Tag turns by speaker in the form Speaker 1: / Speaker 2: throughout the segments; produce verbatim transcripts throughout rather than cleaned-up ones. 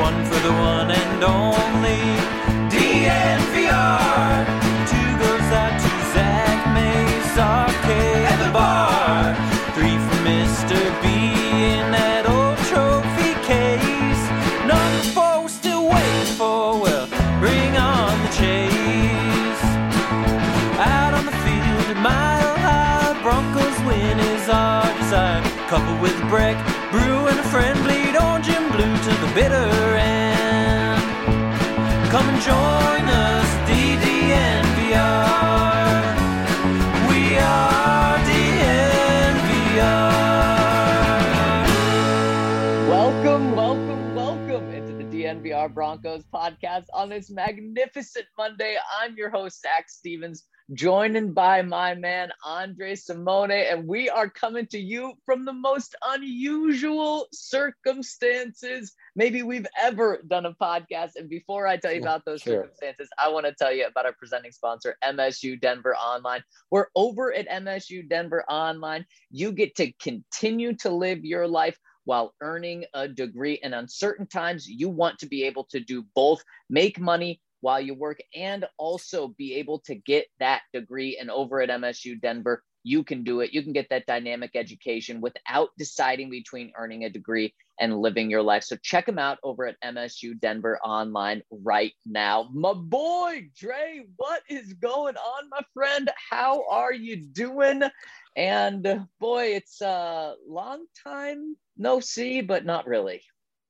Speaker 1: one for the one and only D N V R. Two goes out to Zach Mays, Arcade at the bar. Three for Mister B in that old trophy case. Number four we're still waiting for, well, bring on the chase. Out on the field, a mile high, Broncos win is our desire. Coupled with a break, brew and a friend, bleed orange and blue to the bitter end. Come and join us, D D N V R. We are D N V R.
Speaker 2: Welcome, welcome, welcome into the D N V R Broncos podcast on this magnificent Monday. I'm your host, Zach Stevens, joined by my man, Andre Simone, and we are coming to you from the most unusual circumstances maybe we've ever done a podcast. And before I tell you about those
Speaker 3: Sure.
Speaker 2: circumstances, I want to tell you about our presenting sponsor, M S U Denver Online. We're over at M S U Denver Online. You get to continue to live your life while earning a degree. And on certain times, you want to be able to do both, make money while you work and also be able to get that degree. And over at M S U Denver, you can do it. You can get that dynamic education without deciding between earning a degree and living your life. So check them out over at M S U Denver Online right now. My boy, Dre, what is going on, my friend? How are you doing? And uh, boy, it's a long time no see, but not really.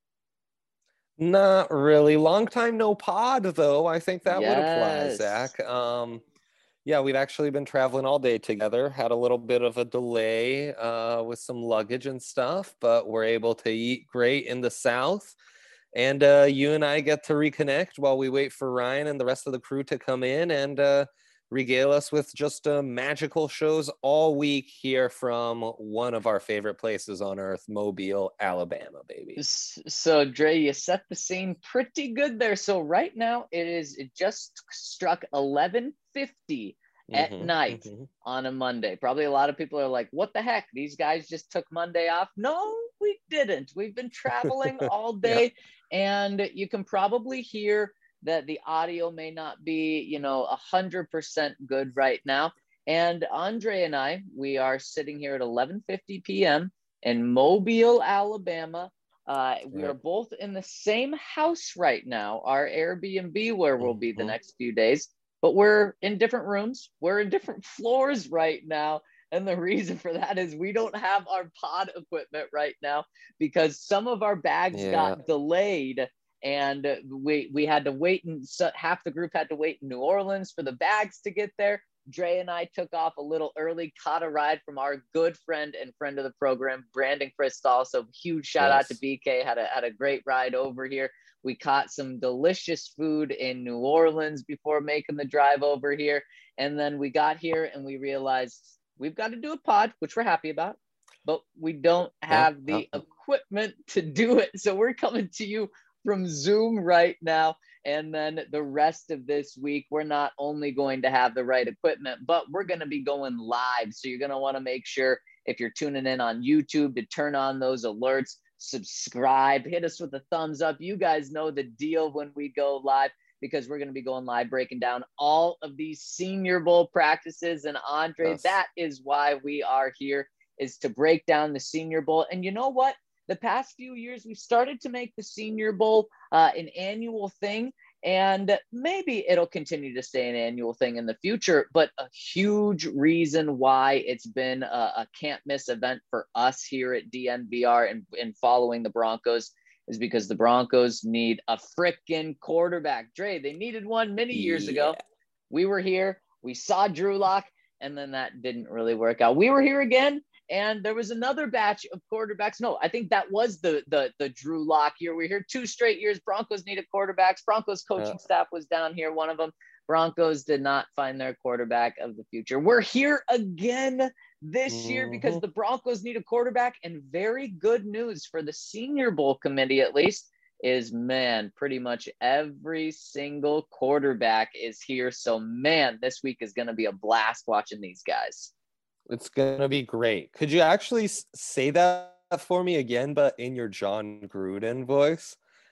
Speaker 3: Not really. Long time no pod, though. I think that would apply,
Speaker 2: Yes.
Speaker 3: Zach. Um, yeah, we've actually been traveling all day together. Had a little bit of a delay uh, with some luggage and stuff, but we're able to eat great in the South. And uh, you and I get to reconnect while we wait for Ryan and the rest of the crew to come in and uh, regale us with just uh, magical shows all week here from one of our favorite places on earth, Mobile, Alabama, baby.
Speaker 2: So, Dre, you set the scene pretty good there. So right now it is it just struck eleven fifty at
Speaker 3: Mhm,
Speaker 2: night
Speaker 3: mhm.
Speaker 2: on a Monday. Probably a lot of people are like, what the heck? These guys just took Monday off. No, we didn't. We've been traveling all day, and you can probably hear that the audio may not be, you know, a hundred percent good right now. And Andre and I, we are sitting here at eleven fifty p.m. in Mobile, Alabama. Uh, we
Speaker 3: Right.
Speaker 2: are both in the same house right now, our Airbnb, where we'll be the
Speaker 3: Mhm.
Speaker 2: next few days, but we're in different rooms. We're in different floors right now. And the reason for that is we don't have our pod equipment right now because some of our bags
Speaker 3: Yeah.
Speaker 2: got delayed. And we we had to wait, and so half the group had to wait in New Orleans for the bags to get there. Dre and I took off a little early, caught a ride from our good friend and friend of the program, Brandon Crystal. So huge shout out to
Speaker 3: Yes.
Speaker 2: B K. Had a had a great ride over here. We caught some delicious food in New Orleans before making the drive over here. And then we got here and we realized we've got to do a pod, which we're happy about, but we don't have the
Speaker 3: yeah.
Speaker 2: equipment to do it. So we're coming to you from Zoom right now. And then the rest of this week, we're not only going to have the right equipment, but we're going to be going live. So you're going to want to make sure if you're tuning in on YouTube to turn on those alerts, subscribe, hit us with a thumbs up. You guys know the deal when we go live, because we're going to be going live, breaking down all of these Senior Bowl practices. And Andre,
Speaker 3: Yes.
Speaker 2: that is why we are here, is to break down the Senior Bowl. And you know what? The past few years, we've started to make the Senior Bowl uh, an annual thing, and maybe it'll continue to stay an annual thing in the future. But a huge reason why it's been a, a can't miss event for us here at D N V R and, and following the Broncos is because the Broncos need a frickin' quarterback. Dre, they needed one many years ago.
Speaker 3: Yeah.
Speaker 2: We were here, we saw Drew Lock, and then that didn't really work out. We were here again, and there was another batch of quarterbacks. No, I think that was the the the Drew Lock year. We were here two straight years. Broncos needed quarterbacks. Broncos coaching
Speaker 3: Yeah.
Speaker 2: staff was down here, one of them. Broncos did not find their quarterback of the future. We're here again this year because
Speaker 3: Mhm.
Speaker 2: the Broncos need a quarterback, and very good news for the Senior Bowl committee, at least, is, man, pretty much every single quarterback is here. So, man, this week is going to be a blast watching these guys.
Speaker 3: It's gonna be great. Could you actually s- say that for me again, but in your John Gruden voice?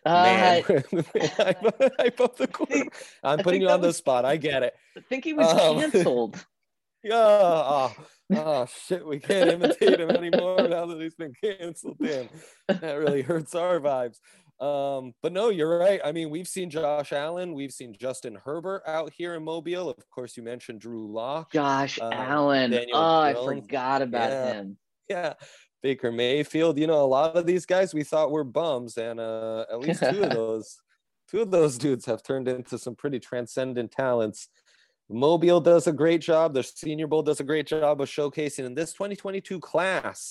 Speaker 3: Man,
Speaker 2: Uh,
Speaker 3: I, I put the quarter. I'm
Speaker 2: I
Speaker 3: putting
Speaker 2: think
Speaker 3: you
Speaker 2: that
Speaker 3: on the
Speaker 2: was-
Speaker 3: spot. I get it.
Speaker 2: I think he was
Speaker 3: Um,
Speaker 2: canceled.
Speaker 3: Yeah. Oh, oh, shit. We can't imitate him anymore now that he's been canceled. Damn. That really hurts our vibes. Um, but no, you're right. I mean, we've seen Josh Allen. We've seen Justin Herbert out here in Mobile. Of course, you mentioned Drew Lock.
Speaker 2: Josh
Speaker 3: um,
Speaker 2: Allen.
Speaker 3: Daniel
Speaker 2: Oh, I
Speaker 3: Jones.
Speaker 2: forgot about
Speaker 3: Yeah.
Speaker 2: him.
Speaker 3: Yeah. Baker Mayfield. You know, a lot of these guys we thought were bums. And uh, at least two of those, two of those dudes have turned into some pretty transcendent talents. Mobile does a great job. The Senior Bowl does a great job of showcasing. And this twenty twenty-two class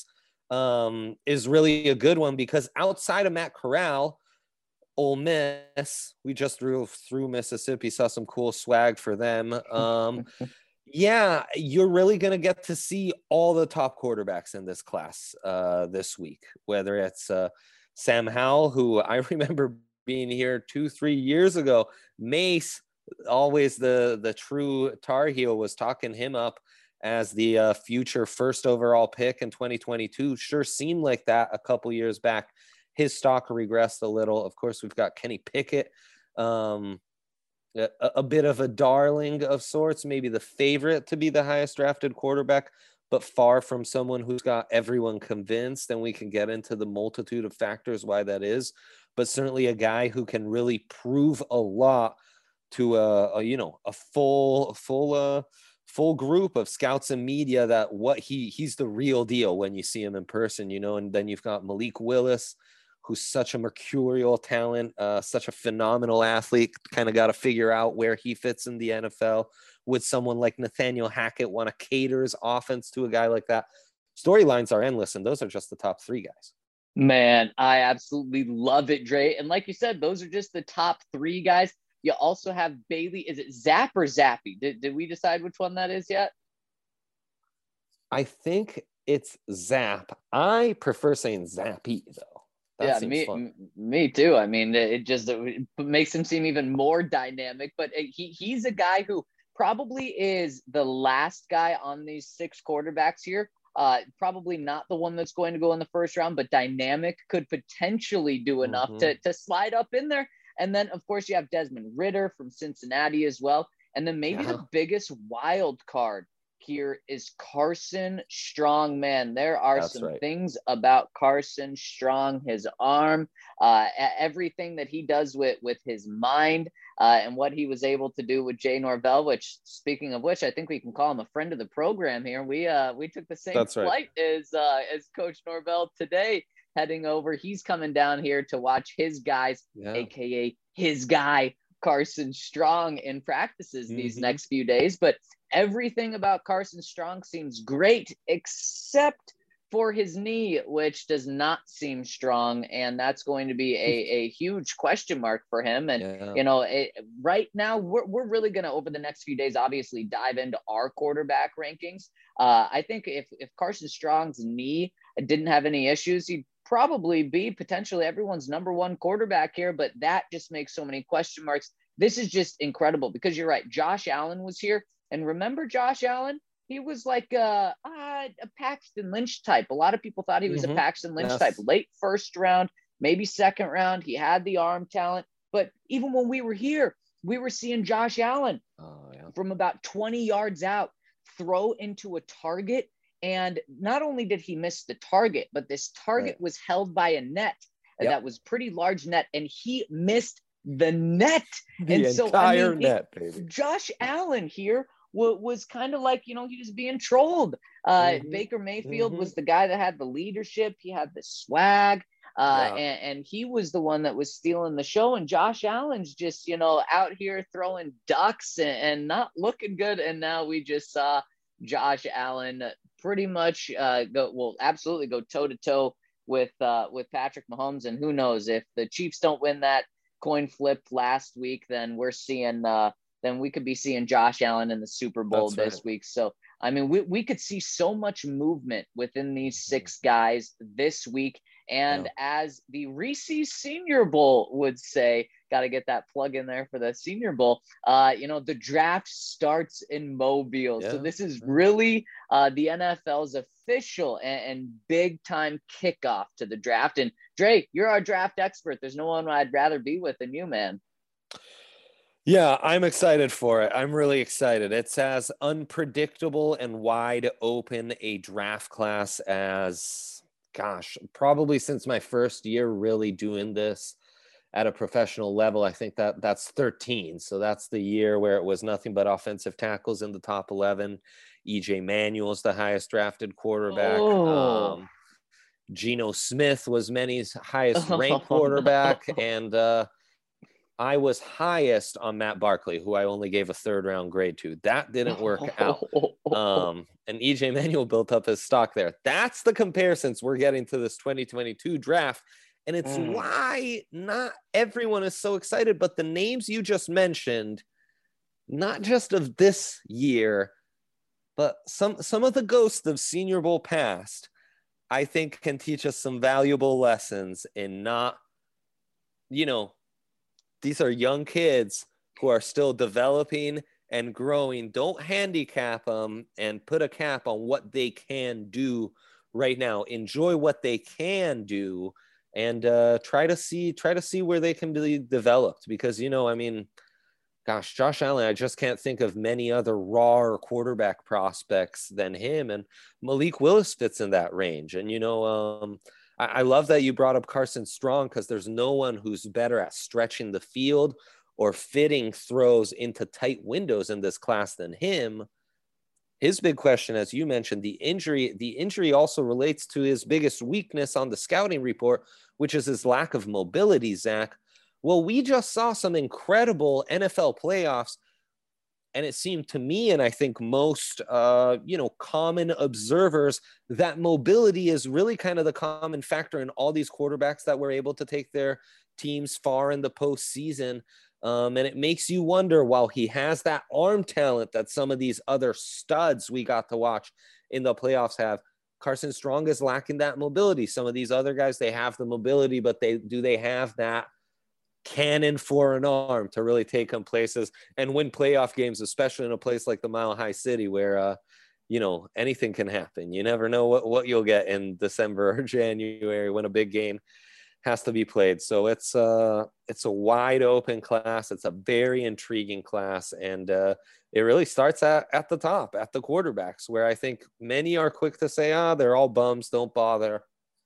Speaker 3: um, is really a good one because outside of Matt Corral, Ole Miss, we just drove through Mississippi, saw some cool swag for them. Um, yeah, you're really going to get to see all the top quarterbacks in this class uh, this week, whether it's uh, Sam Howell, who I remember being here two, three years ago, Mace, always the the true Tar Heel, was talking him up as the uh, future first overall pick in twenty twenty-two. Sure seemed like that a couple years back. His stock regressed a little. Of course, we've got Kenny Pickett, um, a, a bit of a darling of sorts, maybe the favorite to be the highest drafted quarterback, but far from someone who's got everyone convinced. And we can get into the multitude of factors why that is, but certainly a guy who can really prove a lot to a, a you know a full full uh full group of scouts and media that what he he's the real deal when you see him in person, you know. And then you've got Malik Willis, who's such a mercurial talent, uh such a phenomenal athlete. Kind of got to figure out where he fits in the N F L. Would someone like Nathaniel Hackett want to cater his offense to a guy like that? Storylines are endless, and those are just the top three guys.
Speaker 2: Man, I absolutely love it, Dre. And like you said, those are just the top three guys. You also have Bailey. Is it Zap or Zappy? Did, did we decide which one that is yet?
Speaker 3: I think it's Zap. I prefer saying Zappy, though. That
Speaker 2: yeah,
Speaker 3: seems
Speaker 2: me,
Speaker 3: fun.
Speaker 2: me too. I mean, it just it makes him seem even more dynamic. But he he's a guy who probably is the last guy on these six quarterbacks here. Uh, probably not the one that's going to go in the first round, but dynamic, could potentially do enough
Speaker 3: Mhm.
Speaker 2: to to slide up in there. And then, of course, you have Desmond Ridder from Cincinnati as well. And then maybe
Speaker 3: Yeah.
Speaker 2: the biggest wild card here is Carson Strong. Man, there are
Speaker 3: That's
Speaker 2: some
Speaker 3: right.
Speaker 2: things about Carson Strong, his arm, uh, e- everything that he does with, with his mind, uh, and what he was able to do with Jay Norvell, which, speaking of which, I think we can call him a friend of the program here. We uh, we took the same
Speaker 3: That's right.
Speaker 2: flight as, uh, as Coach Norvell today, heading over. He's coming down here to watch his guys,
Speaker 3: Yeah.
Speaker 2: A K A his guy, Carson Strong, in practices these
Speaker 3: Mhm.
Speaker 2: next few days. But everything about Carson Strong seems great, except for his knee, which does not seem strong. And that's going to be a, a huge question mark for him. And,
Speaker 3: Yeah.
Speaker 2: you know, it, right now, we're, we're really going to, over the next few days, obviously dive into our quarterback rankings. Uh, I think if, if Carson Strong's knee didn't have any issues, he'd probably be potentially everyone's number one quarterback here. But that just makes so many question marks. This is just incredible because you're right. Josh Allen was here. And remember Josh Allen? He was like a, a, a Paxton Lynch type. A lot of people thought he was
Speaker 3: Mhm.
Speaker 2: a Paxton Lynch
Speaker 3: Yes.
Speaker 2: type, late first round, maybe second round. He had the arm talent. But even when we were here, we were seeing Josh Allen
Speaker 3: Oh, yeah.
Speaker 2: from about twenty yards out throw into a target. And not only did he miss the target, but this target
Speaker 3: Right.
Speaker 2: was held by a net
Speaker 3: Yep.
Speaker 2: that was pretty large net, and he missed the net.
Speaker 3: The
Speaker 2: and
Speaker 3: entire
Speaker 2: so, I mean, it-
Speaker 3: net, baby.
Speaker 2: Josh Allen here was, was kind of like, you know, he was being trolled. Uh,
Speaker 3: Mhm.
Speaker 2: Baker Mayfield
Speaker 3: Mhm.
Speaker 2: was the guy that had the leadership. He had the swag, uh,
Speaker 3: Yeah.
Speaker 2: and, and he was the one that was stealing the show. And Josh Allen's just, you know, out here throwing ducks and, and not looking good. And now we just saw Josh Allen pretty much uh, go, well, absolutely go toe to toe with uh, with Patrick Mahomes. And who knows, if the Chiefs don't win that coin flip last week, then we're seeing uh, then we could be seeing Josh Allen in the Super Bowl
Speaker 3: That's
Speaker 2: this
Speaker 3: right.
Speaker 2: week. So, I mean, we, we could see so much movement within these six guys this week. And
Speaker 3: Yeah.
Speaker 2: as the Reese's Senior Bowl would say, got to get that plug in there for the Senior Bowl. Uh, you know, the draft starts in Mobile. So
Speaker 3: Yeah.
Speaker 2: this is
Speaker 3: Yeah.
Speaker 2: really uh, the N F L's official and, and big time kickoff to the draft. And Dre, you're our draft expert. There's no one I'd rather be with than you, man.
Speaker 3: Yeah, I'm excited for it. I'm really excited. It's as unpredictable and wide open a draft class as, gosh, probably since my first year really doing this at a professional level. I think that that's thirteen. So that's the year where it was nothing but offensive tackles in the top eleven. E J Manuel's the highest drafted quarterback.
Speaker 2: Oh.
Speaker 3: Um, Geno Smith was many's highest ranked
Speaker 2: Oh,
Speaker 3: quarterback.
Speaker 2: no.
Speaker 3: And, uh, I was highest on Matt Barkley, who I only gave a third round grade to. That didn't work out. Um, and E J Manuel built up his stock there. That's the comparisons we're getting to this twenty twenty-two draft. And it's mm. why not everyone is so excited, but the names you just mentioned, not just of this year, but some, some of the ghosts of Senior Bowl past, I think can teach us some valuable lessons in not, you know, these are young kids who are still developing and growing. Don't handicap them and put a cap on what they can do right now. Enjoy what they can do and uh, try to see, try to see where they can be developed. Because, you know, I mean, gosh, Josh Allen, I just can't think of many other raw quarterback prospects than him. And Malik Willis fits in that range. And, you know, um, I love that you brought up Carson Strong because there's no one who's better at stretching the field or fitting throws into tight windows in this class than him. His big question, as you mentioned, the injury, the injury also relates to his biggest weakness on the scouting report, which is his lack of mobility, Zach. Well, we just saw some incredible N F L playoffs. And it seemed to me, and I think most, uh, you know, common observers, that mobility is really kind of the common factor in all these quarterbacks that were able to take their teams far in the postseason. Um, and it makes you wonder, while he has that arm talent that some of these other studs we got to watch in the playoffs have, Carson Strong is lacking that mobility. Some of these other guys, they have the mobility, but they do they have that cannon for an arm to really take them places and win playoff games, especially in a place like the Mile High City where, uh, you know, anything can happen. You never know what, what you'll get in December or January when a big game has to be played. So it's uh it's a wide open class. It's a very intriguing class. And uh, it really starts at, at the top, at the quarterbacks, where I think many are quick to say, ah, oh, they're all bums, don't bother.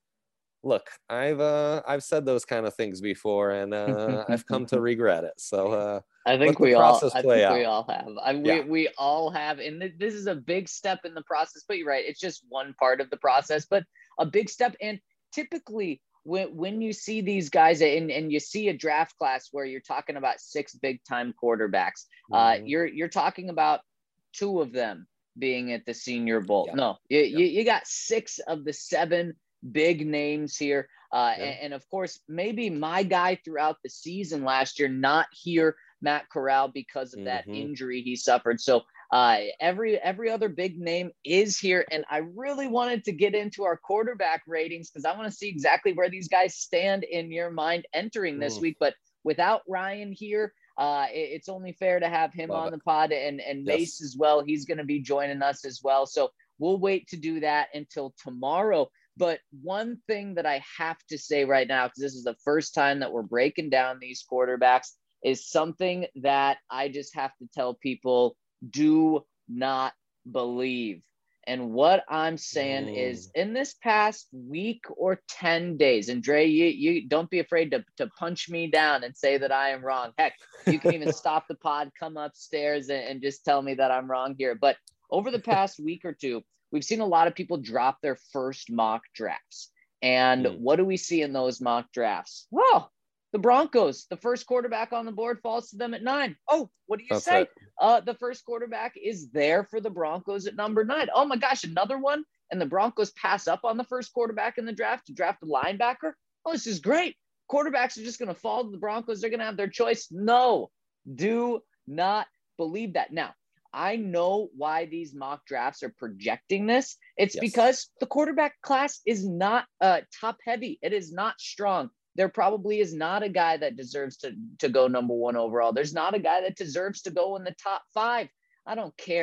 Speaker 3: Look, I've uh, I've said those kind of things before, and uh, I've come to regret it. So uh,
Speaker 2: I think we all, I think out. we all have. I mean, yeah. we we all have, and th- this is a big step in the process. But you're right; it's just one part of the process, but a big step. And typically, when when you see these guys, and and you see a draft class where you're talking about six big time quarterbacks, mm-hmm. uh, you're you're talking about two of them being at the Senior Bowl. Yeah. No, you, yeah. you you got six of the seven big names here. Uh, yeah. and, and of course, maybe my guy throughout the season last year, not here, Matt Corral, because of mm-hmm. that injury he suffered. So uh, every, every other big name is here. And I really wanted to get into our quarterback ratings because I want to see exactly where these guys stand in your mind entering this mm. week. But without Ryan here, uh, it, it's only fair to have him Love on it. the pod and, and yes. Mace as well. He's going to be joining us as well. So we'll wait to do that until tomorrow. But one thing that I have to say right now, because this is the first time that we're breaking down these quarterbacks, is something that I just have to tell people, do not believe. And what I'm saying mm. is in this past week or ten days, and Dre, you, you don't be afraid to, to punch me down and say that I am wrong. Heck, you can even stop the pod, come upstairs and, and just tell me that I'm wrong here. But over the past week or two, we've seen a lot of people drop their first mock drafts. And mm. what do we see in those mock drafts? Well, the Broncos, the first quarterback on the board falls to them at nine. Oh, what do you That's say? Right. Uh, the first quarterback is there for the Broncos at number nine. Oh my gosh, another one. And the Broncos pass up on the first quarterback in the draft to draft a linebacker. Oh, this is great. Quarterbacks are just going to fall to the Broncos. They're going to have their choice. No, do not believe that. Now, I know why these mock drafts are projecting this. It's yes. because the quarterback class is not uh, top heavy. It is not strong. There probably is not a guy that deserves to, to go number one overall. There's not a guy that deserves to go in the top five. I don't care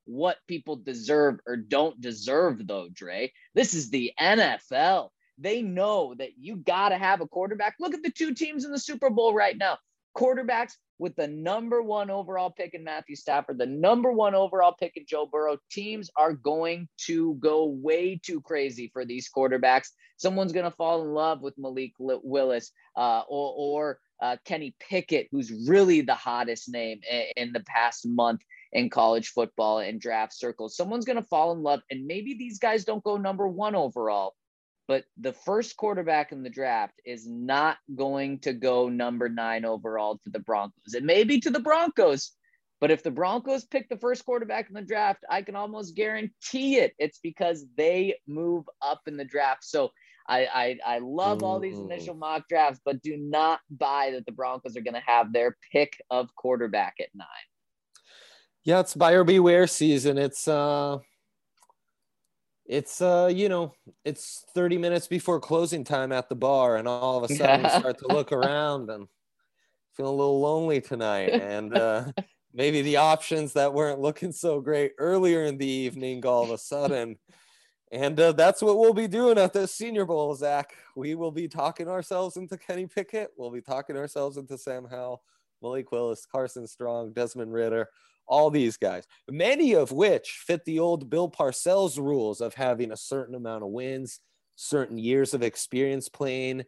Speaker 2: what people deserve or don't deserve, though, Dre. This is the N F L. They know that you got to have a quarterback. Look at the two teams in the Super Bowl right now. Quarterbacks with the number one overall pick in Matthew Stafford, the number one overall pick in Joe Burrow. Teams are going to go way too crazy for these quarterbacks. Someone's going to fall in love with Malik Willis uh, or, or uh, Kenny Pickett, who's really the hottest name in, in the past month in college football and draft circles. Someone's going to fall in love, and maybe these guys don't go number one overall, but the first quarterback in the draft is not going to go number nine overall to the Broncos. It may be to the Broncos, but if the Broncos pick the first quarterback in the draft, I can almost guarantee it. It's because they move up in the draft. So I I, I love all these initial mock drafts, but do not buy that the Broncos are going to have their pick of quarterback at nine.
Speaker 3: Yeah, it's buyer beware season. It's uh It's, uh, you know, it's thirty minutes before closing time at the bar, and all of a sudden you start to look around and feel a little lonely tonight. And uh, maybe the options that weren't looking so great earlier in the evening all of a sudden. And uh, that's what we'll be doing at the Senior Bowl, Zach. We will be talking ourselves into Kenny Pickett. We'll be talking ourselves into Sam Howell, Malik Willis, Carson Strong, Desmond Ridder. All these guys, many of which fit the old Bill Parcells rules of having a certain amount of wins, certain years of experience playing.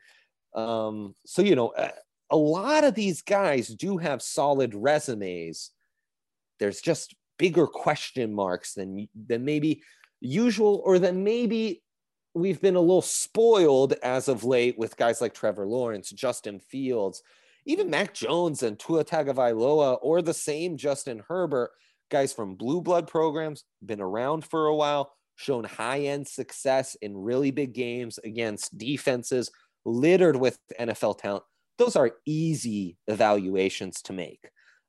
Speaker 3: Um, so, you know, a, a lot of these guys do have solid resumes. There's just bigger question marks than, than maybe usual, or than maybe we've been a little spoiled as of late with guys like Trevor Lawrence, Justin Fields, even Mac Jones and Tua Tagovailoa, or the same Justin Herbert, guys from blue blood programs, been around for a while, shown high-end success in really big games against defenses littered with N F L talent. Those are easy evaluations to make,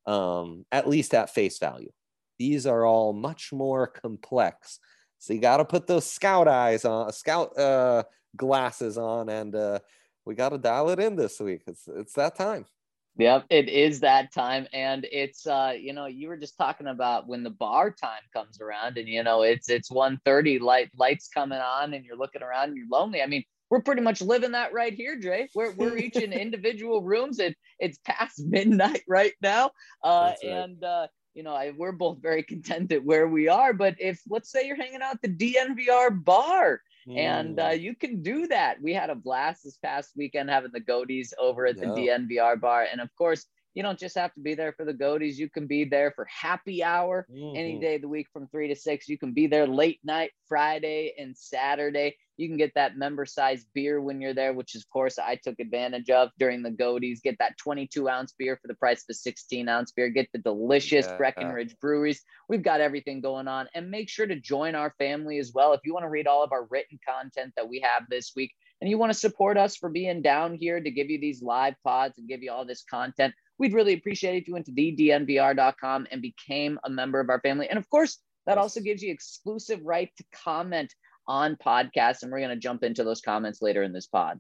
Speaker 3: um, at least at face value. These are all much more complex. So you got to put those scout eyes on, scout uh, glasses on, and uh, we got to dial it in this week. It's it's that time.
Speaker 2: Yep, it is that time. And it's, uh, you know, you were just talking about when the bar time comes around and, you know, it's it's one thirty, light, lights coming on and you're looking around and you're lonely. I mean, we're pretty much living that right here, Dre. We're, we're each in individual rooms. And it's past midnight right now. Uh, right. And, uh, you know, I, we're both very content at where we are. But if, let's say you're hanging out at the D N V R bar, and uh, you can do that. We had a blast this past weekend having the Goaties over at the yeah. D N V R bar. And of course, you don't just have to be there for the Goaties. You can be there for happy hour mm-hmm. any day of the week from three to six. You can be there late night, Friday and Saturday. You can get that member size beer when you're there, which of course I took advantage of during the Goaties. Get that twenty-two ounce beer for the price of a sixteen ounce beer. Get the delicious yeah. Breckenridge breweries. We've got everything going on, and make sure to join our family as well. If you want to read all of our written content that we have this week, and you want to support us for being down here to give you these live pods and give you all this content, we'd really appreciate it if you went to the d n v r dot com and became a member of our family. And of course, that also gives you exclusive right to comment on podcasts, and we're going to jump into those comments later in this pod.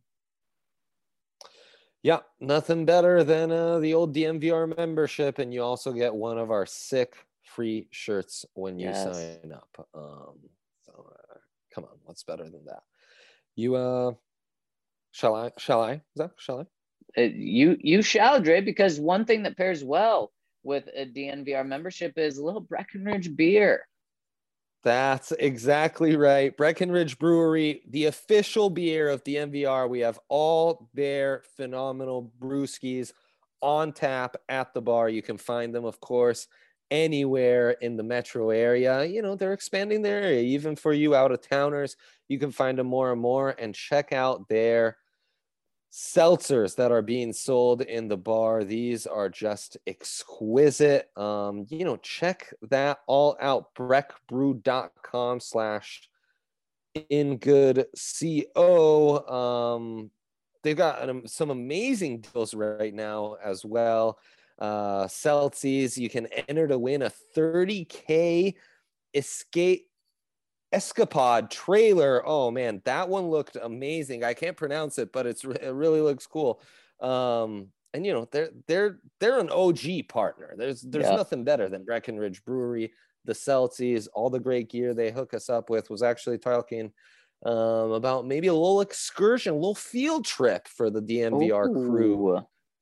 Speaker 3: Yeah, nothing better than uh, the old D N V R membership, and you also get one of our sick free shirts when you yes. sign up. Um, so uh, come on, what's better than that? You uh, shall I? Shall I? Zach? Shall I?
Speaker 2: Uh, you you shall, Dre, because one thing that pairs well with a D N V R membership is a little Breckenridge beer.
Speaker 3: That's exactly right. Breckenridge Brewery, the official beer of D N V R. We have all their phenomenal brewskis on tap at the bar. You can find them, of course, anywhere in the metro area. You know, they're expanding their area. Even for you out-of-towners, you can find them more and more, and check out their seltzers that are being sold in the bar. These are just exquisite. Um, you know, check that all out. breckbrew.com slash in good co. Um, they've got um, some amazing deals right now as well. Uh, Celsius, you can enter to win a thirty K escape Escapade trailer. Oh man, that one looked amazing. I can't pronounce it, but it's it really looks cool. Um, and you know, they're they're they're an O G partner. There's there's yeah. nothing better than Breckenridge Brewery. the Celtics, all the great gear they hook us up with, was actually talking um, about maybe a little excursion, a little field trip for the D N V R
Speaker 2: Ooh.
Speaker 3: crew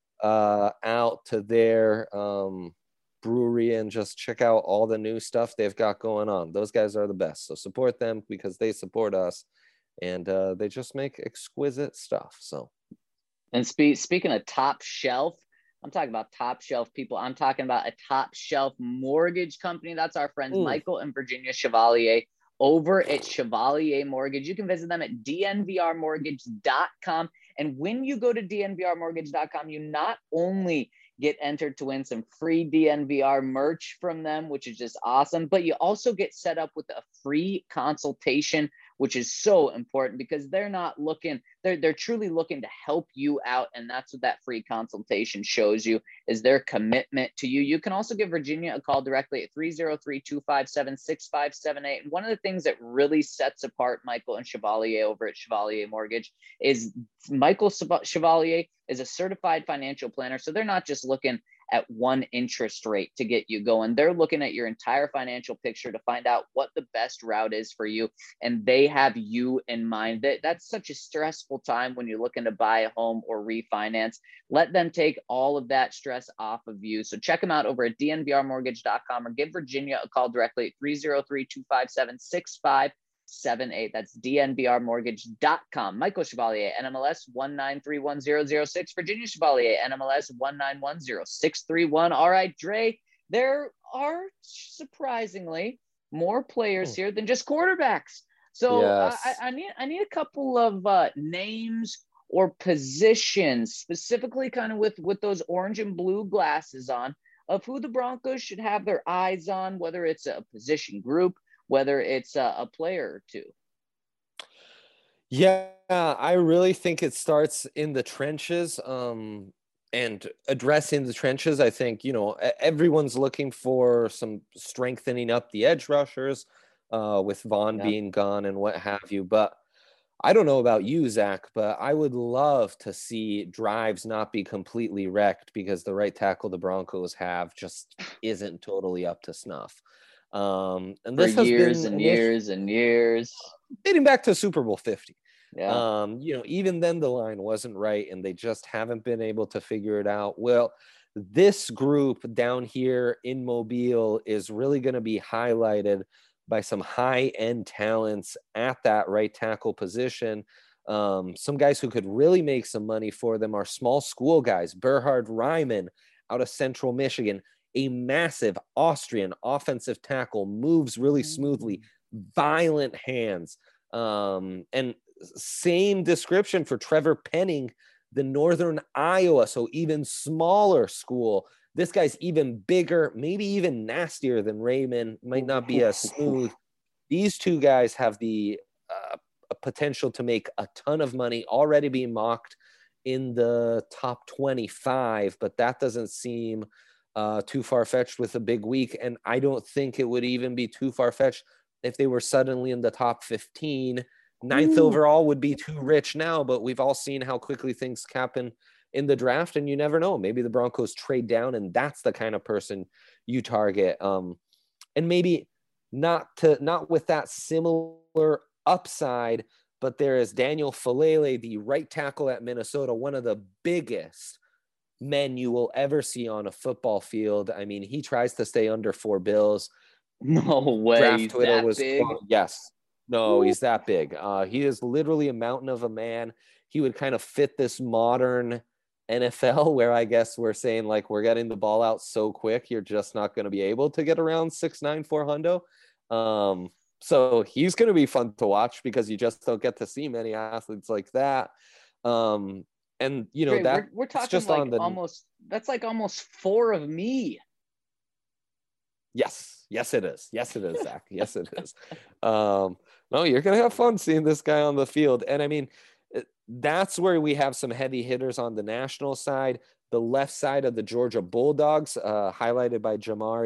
Speaker 3: uh, out to their um, brewery and just check out all the new stuff they've got going on. Those guys are the best. So support them because they support us, and uh, they just make exquisite stuff. So,
Speaker 2: and spe- speaking of top shelf, I'm talking about top shelf people. I'm talking about a top shelf mortgage company. That's our friends
Speaker 3: mm.
Speaker 2: Michael and Virginia Chevalier over at Chevalier Mortgage. You can visit them at D N V R mortgage dot com. And when you go to D N V R mortgage dot com, you not only get entered to win some free D N V R merch from them, which is just awesome, but you also get set up with a free consultation, which is so important because they're not looking, they're, they're truly looking to help you out. And that's what that free consultation shows you, is their commitment to you. You can also give Virginia a call directly at three oh three, two five seven, six five seven eight. And one of the things that really sets apart Michael and Chevalier over at Chevalier Mortgage is Michael Chevalier is a certified financial planner. So they're not just looking at one interest rate to get you going. They're looking at your entire financial picture to find out what the best route is for you. And they have you in mind. That That's such a stressful time when you're looking to buy a home or refinance. Let them take all of that stress off of you. So check them out over at D N V R mortgage dot com or give Virginia a call directly at three oh three, two five seven, six five seven eight. That's D N V R mortgage dot com. Michael Chevalier, N M L S one nine three one zero zero six. Virginia Chevalier, N M L S one nine one zero six three one. All right, Dre, there are surprisingly more players here than just quarterbacks. So
Speaker 3: Yes.
Speaker 2: I, I need I need a couple of uh, names or positions, specifically kind of with, with those orange and blue glasses on, of who the Broncos should have their eyes on, whether it's a position group, whether it's a, a player or two.
Speaker 3: Yeah, I really think it starts in the trenches um, and addressing the trenches. I think, you know, everyone's looking for some strengthening up the edge rushers uh, with Vaughn
Speaker 2: Yeah.
Speaker 3: being gone and what have you. But I don't know about you, Zach, but I would love to see drives not be completely wrecked because the right tackle the Broncos have just isn't totally up to snuff. Um, and
Speaker 2: For
Speaker 3: this has
Speaker 2: years
Speaker 3: been
Speaker 2: and
Speaker 3: an issue
Speaker 2: years and years.
Speaker 3: dating back to Super Bowl fifty.
Speaker 2: Yeah.
Speaker 3: Um, you know, even then the line wasn't right and they just haven't been able to figure it out. Well, this group down here in Mobile is really going to be highlighted by some high-end talents at that right tackle position. Um, some guys who could really make some money for them are small school guys. Berhard Ryman out of Central Michigan, a massive Austrian offensive tackle, moves really smoothly, violent hands. Um, and same description for Trevor Penning, the Northern Iowa, so even smaller school. This guy's even bigger, maybe even nastier than Raymond, might not be as smooth. These two guys have the uh, potential to make a ton of money, already being mocked in the top twenty-five, but that doesn't seem uh, too far-fetched with a big week. And I don't think it would even be too far-fetched if they were suddenly in the top fifteen. Ninth Ooh. Overall would be too rich now, but we've all seen how quickly things happen in the draft, and you never know. Maybe the Broncos trade down, and that's the kind of person you target. Um, and maybe not to not with that similar upside, but there is Daniel Falele, the right tackle at Minnesota, one of the biggest men you will ever see on a football field. I mean, he tries to stay under four bills.
Speaker 2: No way.
Speaker 3: Draft
Speaker 2: He's
Speaker 3: Twitter
Speaker 2: that
Speaker 3: was
Speaker 2: big.
Speaker 3: quote, yes. No, he's that big. Uh, he is literally a mountain of a man. He would kind of fit this modern N F L where I guess we're saying like we're getting the ball out so quick, you're just not going to be able to get around six nine, four hundo. Um, so he's going to be fun to watch because you just don't get to see many athletes like that. Um, and you know,
Speaker 2: Dre,
Speaker 3: that
Speaker 2: we're, we're talking
Speaker 3: just
Speaker 2: like
Speaker 3: on the
Speaker 2: almost, that's like almost four of me.
Speaker 3: Yes. Yes, it is. Yes, it is, Zach. Yes, it is. Um, no, you're going to have fun seeing this guy on the field. And I mean, that's where we have some heavy hitters on the national side. The left side of the Georgia Bulldogs, uh, highlighted by Jamari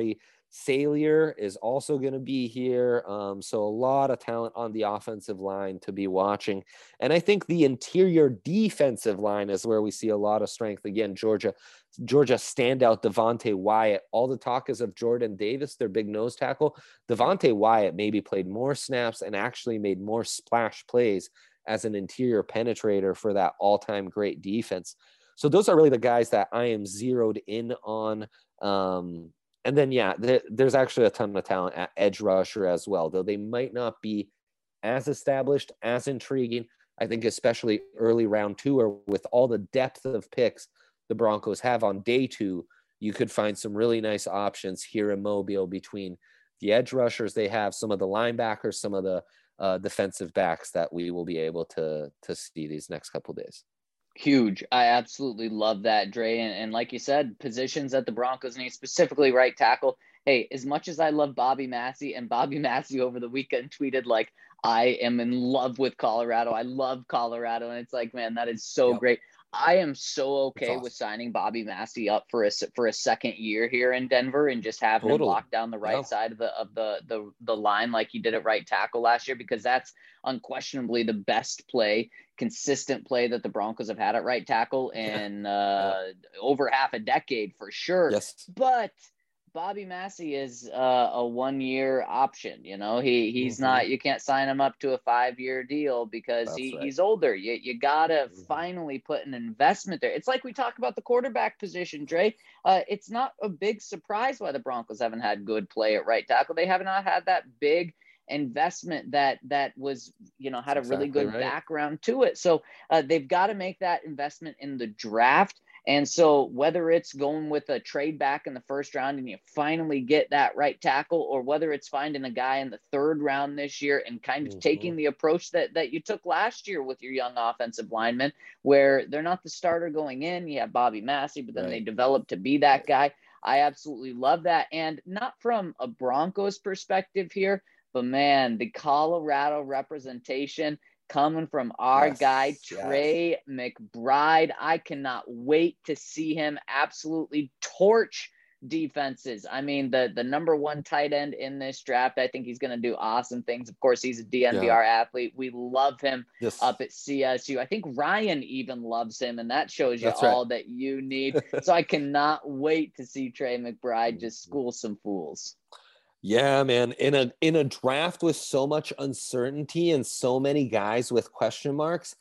Speaker 3: Salier is also going to be here. Um, so a lot of talent on the offensive line to be watching. And I think the interior defensive line is where we see a lot of strength. Again, Georgia, Georgia standout Devontae Wyatt. All the talk is of Jordan Davis, their big nose tackle. Devontae Wyatt maybe played more snaps and actually made more splash plays as an interior penetrator for that all-time great defense. So those are really the guys that I am zeroed in on. Um, And then, yeah, there, there's actually a ton of talent at edge rusher as well, though they might not be as established, as intriguing. I think especially early round two, or with all the depth of picks the Broncos have on day two, you could find some really nice options here in Mobile between the edge rushers they have, some of the linebackers, some of the uh, defensive backs that we will be able to, to see these next couple of days.
Speaker 2: Huge. I absolutely love that, Dre. And, and like you said, positions that the Broncos need, specifically right tackle. Hey, as much as I love Bobby Massey, and Bobby Massey over the weekend tweeted like, I am in love with Colorado. I love Colorado. And it's like, man, that is so
Speaker 3: Yep.
Speaker 2: great. I am so okay
Speaker 3: awesome.
Speaker 2: with signing Bobby Massey up for a for a second year here in Denver and just having
Speaker 3: Totally.
Speaker 2: him lock down the right
Speaker 3: Yeah.
Speaker 2: side of the of the the the line like he did at right tackle last year, because that's unquestionably the best play, consistent play that the Broncos have had at right tackle in uh, yeah. over half a decade for sure.
Speaker 3: Yes.
Speaker 2: But Bobby Massey is uh, a one-year option. You know, he he's mm-hmm. not. You can't sign him up to a five-year deal because That's he, right. he's older. You you gotta mm-hmm. finally put an investment there. It's like we talk about the quarterback position, Dre. Uh, it's not a big surprise why the Broncos haven't had good play at right tackle. They have not had that big investment that that was, you know, had That's a really exactly good right. background to it. So uh, they've got to make that investment in the draft. And so whether it's going with a trade back in the first round and you finally get that right tackle, or whether it's finding a guy in the third round this year and kind of mm-hmm. taking the approach that, that you took last year with your young offensive linemen, where they're not the starter going in, you have Bobby Massey, but then right. they develop to be that guy. I absolutely love that. And not from a Broncos perspective here, but man, the Colorado representation coming from our yes, guy, Trey yes. McBride. I cannot wait to see him absolutely torch defenses. I mean, the, the number one tight end in this draft, I think he's going to do awesome things. Of course, he's a D N V R yeah. athlete. We love him yes. up at C S U. I think Ryan even loves him, and that shows you That's all right. that you need. So I cannot wait to see Trey McBride just school some fools.
Speaker 3: Yeah, man. In a in a draft with so much uncertainty and so many guys with question marks,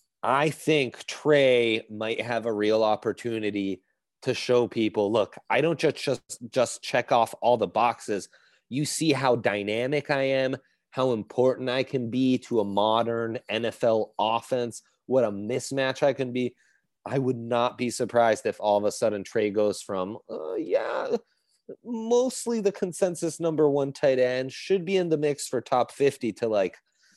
Speaker 3: I think Trey might have a real opportunity to show people, look, I don't just just just check off all the boxes. You see how dynamic I am, how important I can be to a modern N F L offense, what a mismatch I can be. I would not be surprised if all of a sudden Trey goes from, uh, yeah, mostly the consensus number one tight end, should be in the mix for top fifty, to like,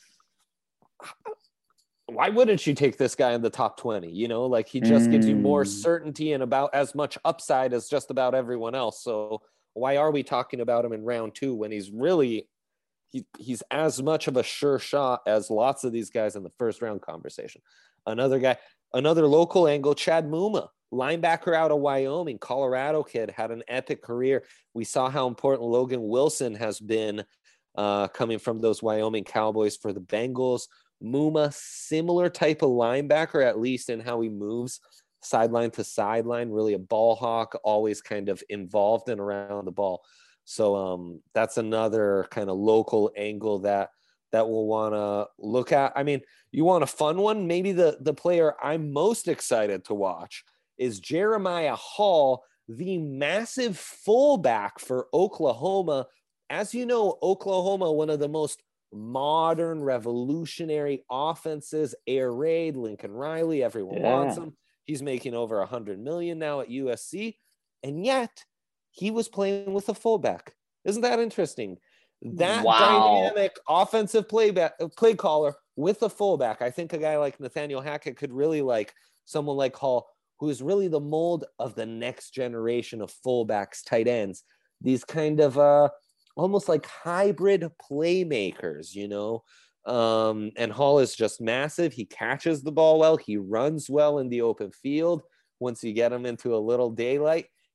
Speaker 3: why wouldn't you take this guy in the top twenty? You know, like he just mm. gives you more certainty and about as much upside as just about everyone else. So why are we talking about him in round two when he's really, he, he's as much of a sure shot as lots of these guys in the first round conversation. Another guy, another local angle, Chad Muma, linebacker out of Wyoming, Colorado kid, had an epic career. We saw how important Logan Wilson has been uh, coming from those Wyoming Cowboys for the Bengals. Muma, similar type of linebacker, at least in how he moves sideline to sideline, really a ball hawk, always kind of involved and around the ball. So um, that's another kind of local angle that that we'll want to look at. I mean, you want a fun one? Maybe the, the player I'm most excited to watch is Jeremiah Hall, the massive fullback for Oklahoma. As you know, Oklahoma, one of the most modern, revolutionary offenses, air raid, Lincoln Riley, everyone yeah. wants him. He's making over a hundred million now at U S C. And yet he was playing with a fullback. Isn't that interesting? That wow. dynamic offensive play back, play caller with a fullback. I think a guy like Nathaniel Hackett could really like someone like Hall, who is really the mold of the next generation of fullbacks, tight ends, these kind of uh, almost like hybrid playmakers, you know? Um, and Hall is just massive. He catches the ball well. He runs well in the open field. Once you get him into a little daylight,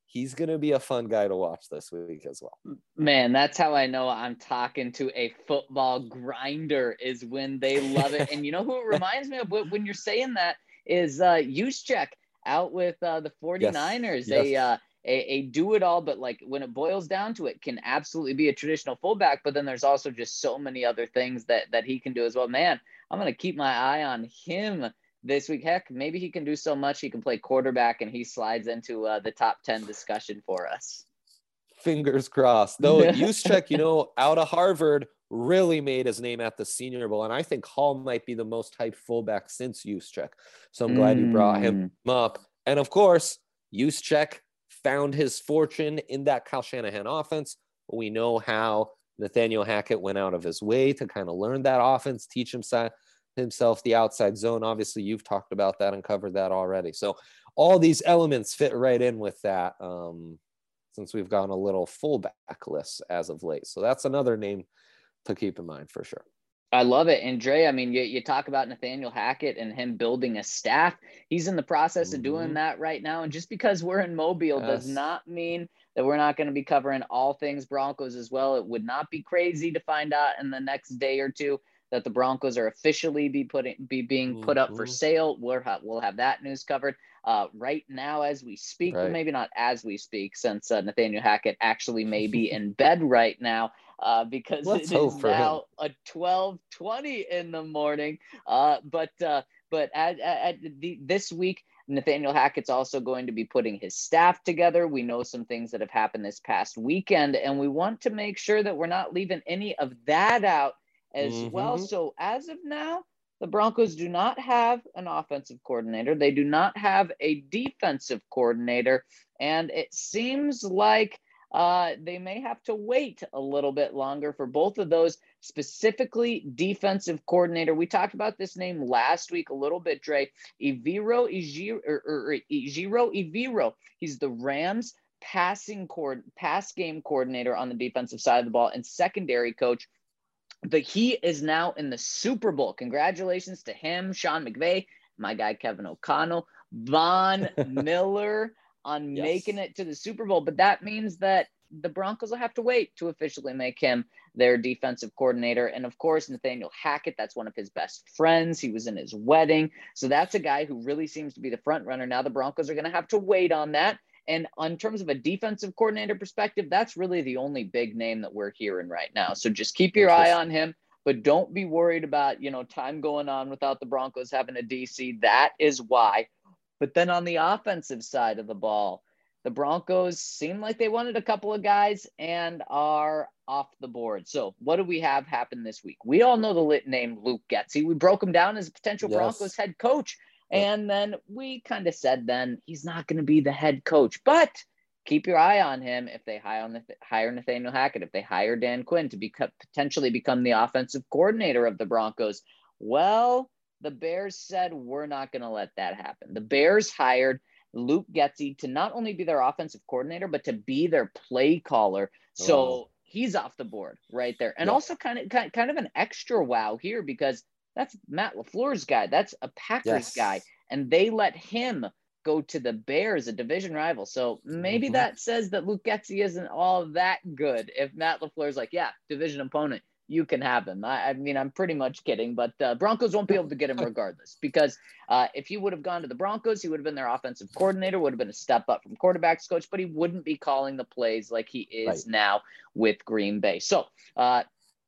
Speaker 3: he's going to be a fun guy to watch this week as well.
Speaker 2: Man, that's how I know I'm talking to a football grinder, is when they love it. And you know who it reminds me of when you're saying that is uh, Juszczyk out with uh, the 49ers.
Speaker 3: Yes.
Speaker 2: They
Speaker 3: Yes.
Speaker 2: uh, a, a do it all, but like when it boils down to it, can absolutely be a traditional fullback. But then there's also just so many other things that that he can do as well. Man, I'm gonna keep my eye on him this week. Heck, maybe he can do so much he can play quarterback and he slides into uh, the top ten discussion for us.
Speaker 3: Fingers crossed. Though Juszczyk, you know, out of Harvard, really made his name at the Senior Bowl, and I think Hall might be the most hyped fullback since Juszczyk. So I'm glad mm. you brought him up. And of course, Juszczyk found his fortune in that Kyle Shanahan offense. We know how Nathaniel Hackett went out of his way to kind of learn that offense, teach himself himself the outside zone. Obviously, you've talked about that and covered that already. So all these elements fit right in with that, um, since we've gone a little fullbackless as of late. So that's another name to keep in mind for sure.
Speaker 2: I love it. And Dre, I mean, you, you talk about Nathaniel Hackett and him building a staff. He's in the process mm-hmm. of doing that right now. And just because we're in Mobile yes. does not mean that we're not going to be covering all things Broncos as well. It would not be crazy to find out in the next day or two that the Broncos are officially be putting be being put up for sale. We'll have, we'll have that news covered uh, right now as we speak, right. but maybe not as we speak, since uh, Nathaniel Hackett actually may be in bed right now uh, because Let's it is now him. a twelve twenty in the morning. Uh, but uh, but at, at the, this week, Nathaniel Hackett's also going to be putting his staff together. We know some things that have happened this past weekend, and we want to make sure that we're not leaving any of that out as mm-hmm. well. So as of now, the Broncos do not have an offensive coordinator. They do not have a defensive coordinator. And it seems like uh, they may have to wait a little bit longer for both of those, specifically defensive coordinator. We talked about this name last week a little bit, Dre. Ejiro Ejiro, or, or, Ejiro Evero. He's the Rams passing cord, pass game coordinator on the defensive side of the ball and secondary coach. But he is now in the Super Bowl. Congratulations to him, Sean McVay, my guy Kevin O'Connell, Von Miller on yes. making it to the Super Bowl. But that means that the Broncos will have to wait to officially make him their defensive coordinator. And of course, Nathaniel Hackett, that's one of his best friends. He was in his wedding. So that's a guy who really seems to be the front runner. Now the Broncos are going to have to wait on that. And in terms of a defensive coordinator perspective, that's really the only big name that we're hearing right now. So just keep your eye on him, but don't be worried about, you know, time going on without the Broncos having a D C. That is why. But then on the offensive side of the ball, the Broncos seem like they wanted a couple of guys and are off the board. So what do we have happen this week? We all know the lit name Luke Getsy. We broke him down as a potential yes. Broncos head coach. And then we kind of said then he's not going to be the head coach, but keep your eye on him if they hire, on the, hire Nathaniel Hackett, if they hire Dan Quinn to become, potentially become the offensive coordinator of the Broncos. Well, the Bears said we're not going to let that happen. The Bears hired Luke Getsy to not only be their offensive coordinator, but to be their play caller. So oh. he's off the board right there. And yeah. also kind of, kind of an extra wow here because that's Matt LaFleur's guy. That's a Packers yes. guy. And they let him go to the Bears, a division rival. So maybe mm-hmm. that says that Luke Getsy isn't all that good. If Matt LaFleur's like, yeah, division opponent, you can have him. I, I mean, I'm pretty much kidding, but uh, Broncos won't be able to get him regardless because uh, if he would have gone to the Broncos, he would have been their offensive coordinator, would have been a step up from quarterbacks coach, but he wouldn't be calling the plays like he is right. now with Green Bay. So, uh,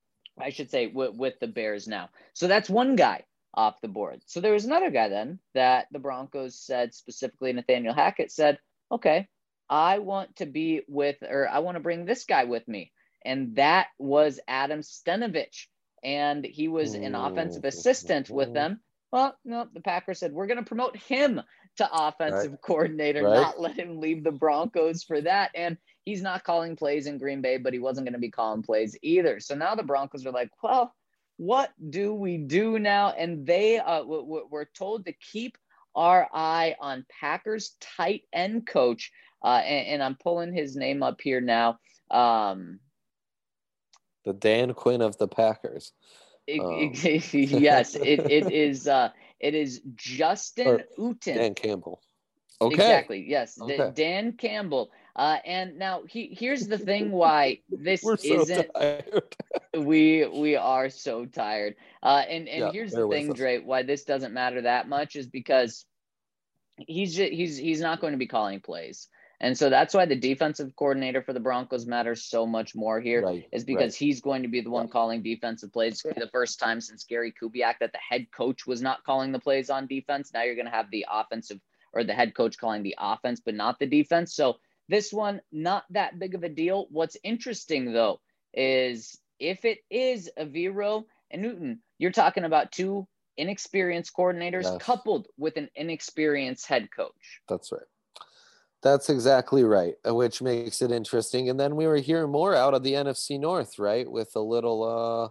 Speaker 2: I should say with, with the Bears now. So that's one guy off the board. So there was another guy then that the Broncos said, specifically Nathaniel Hackett said, okay, I want to be with, or I want to bring this guy with me. And that was Adam Stenavich. And he was an offensive assistant with them. Well, no, the Packers said, we're going to promote him to offensive right. coordinator, right. not let him leave the Broncos for that. And he's not calling plays in Green Bay, but he wasn't going to be calling plays either. So now the Broncos are like, well, what do we do now? And they uh, w- w- were told to keep our eye on Packers tight end coach. Uh, and, and I'm pulling his name up here now. Um,
Speaker 3: the Dan Quinn of the Packers.
Speaker 2: It,
Speaker 3: um.
Speaker 2: it, yes, it, it is. Uh, it is Justin Uten.
Speaker 3: Dan Campbell. Okay.
Speaker 2: Exactly. Yes.
Speaker 3: Okay.
Speaker 2: D- Dan Campbell. Uh, and now he, here's the thing why this
Speaker 3: We're so
Speaker 2: isn't,
Speaker 3: tired.
Speaker 2: we we are so tired. Uh, and and
Speaker 3: Yeah,
Speaker 2: here's the
Speaker 3: bear with
Speaker 2: thing,
Speaker 3: us.
Speaker 2: Dre, why this doesn't matter that much is because he's just, he's he's not going to be calling plays. And so that's why the defensive coordinator for the Broncos matters so much more here,
Speaker 3: Right,
Speaker 2: is because
Speaker 3: right.
Speaker 2: he's going to be the one
Speaker 3: Yeah.
Speaker 2: calling defensive plays. It's going to be the first time since Gary Kubiak that the head coach was not calling the plays on defense. Now you're going to have the offensive or the head coach calling the offense, but not the defense. So this one, not that big of a deal. What's interesting, though, is if it is Evero and Newton, you're talking about two inexperienced coordinators
Speaker 3: Yes.
Speaker 2: coupled with an inexperienced head coach.
Speaker 3: That's right. That's exactly right, uh, which makes it interesting. And then we were hearing more out of the N F C North, right? With a little uh,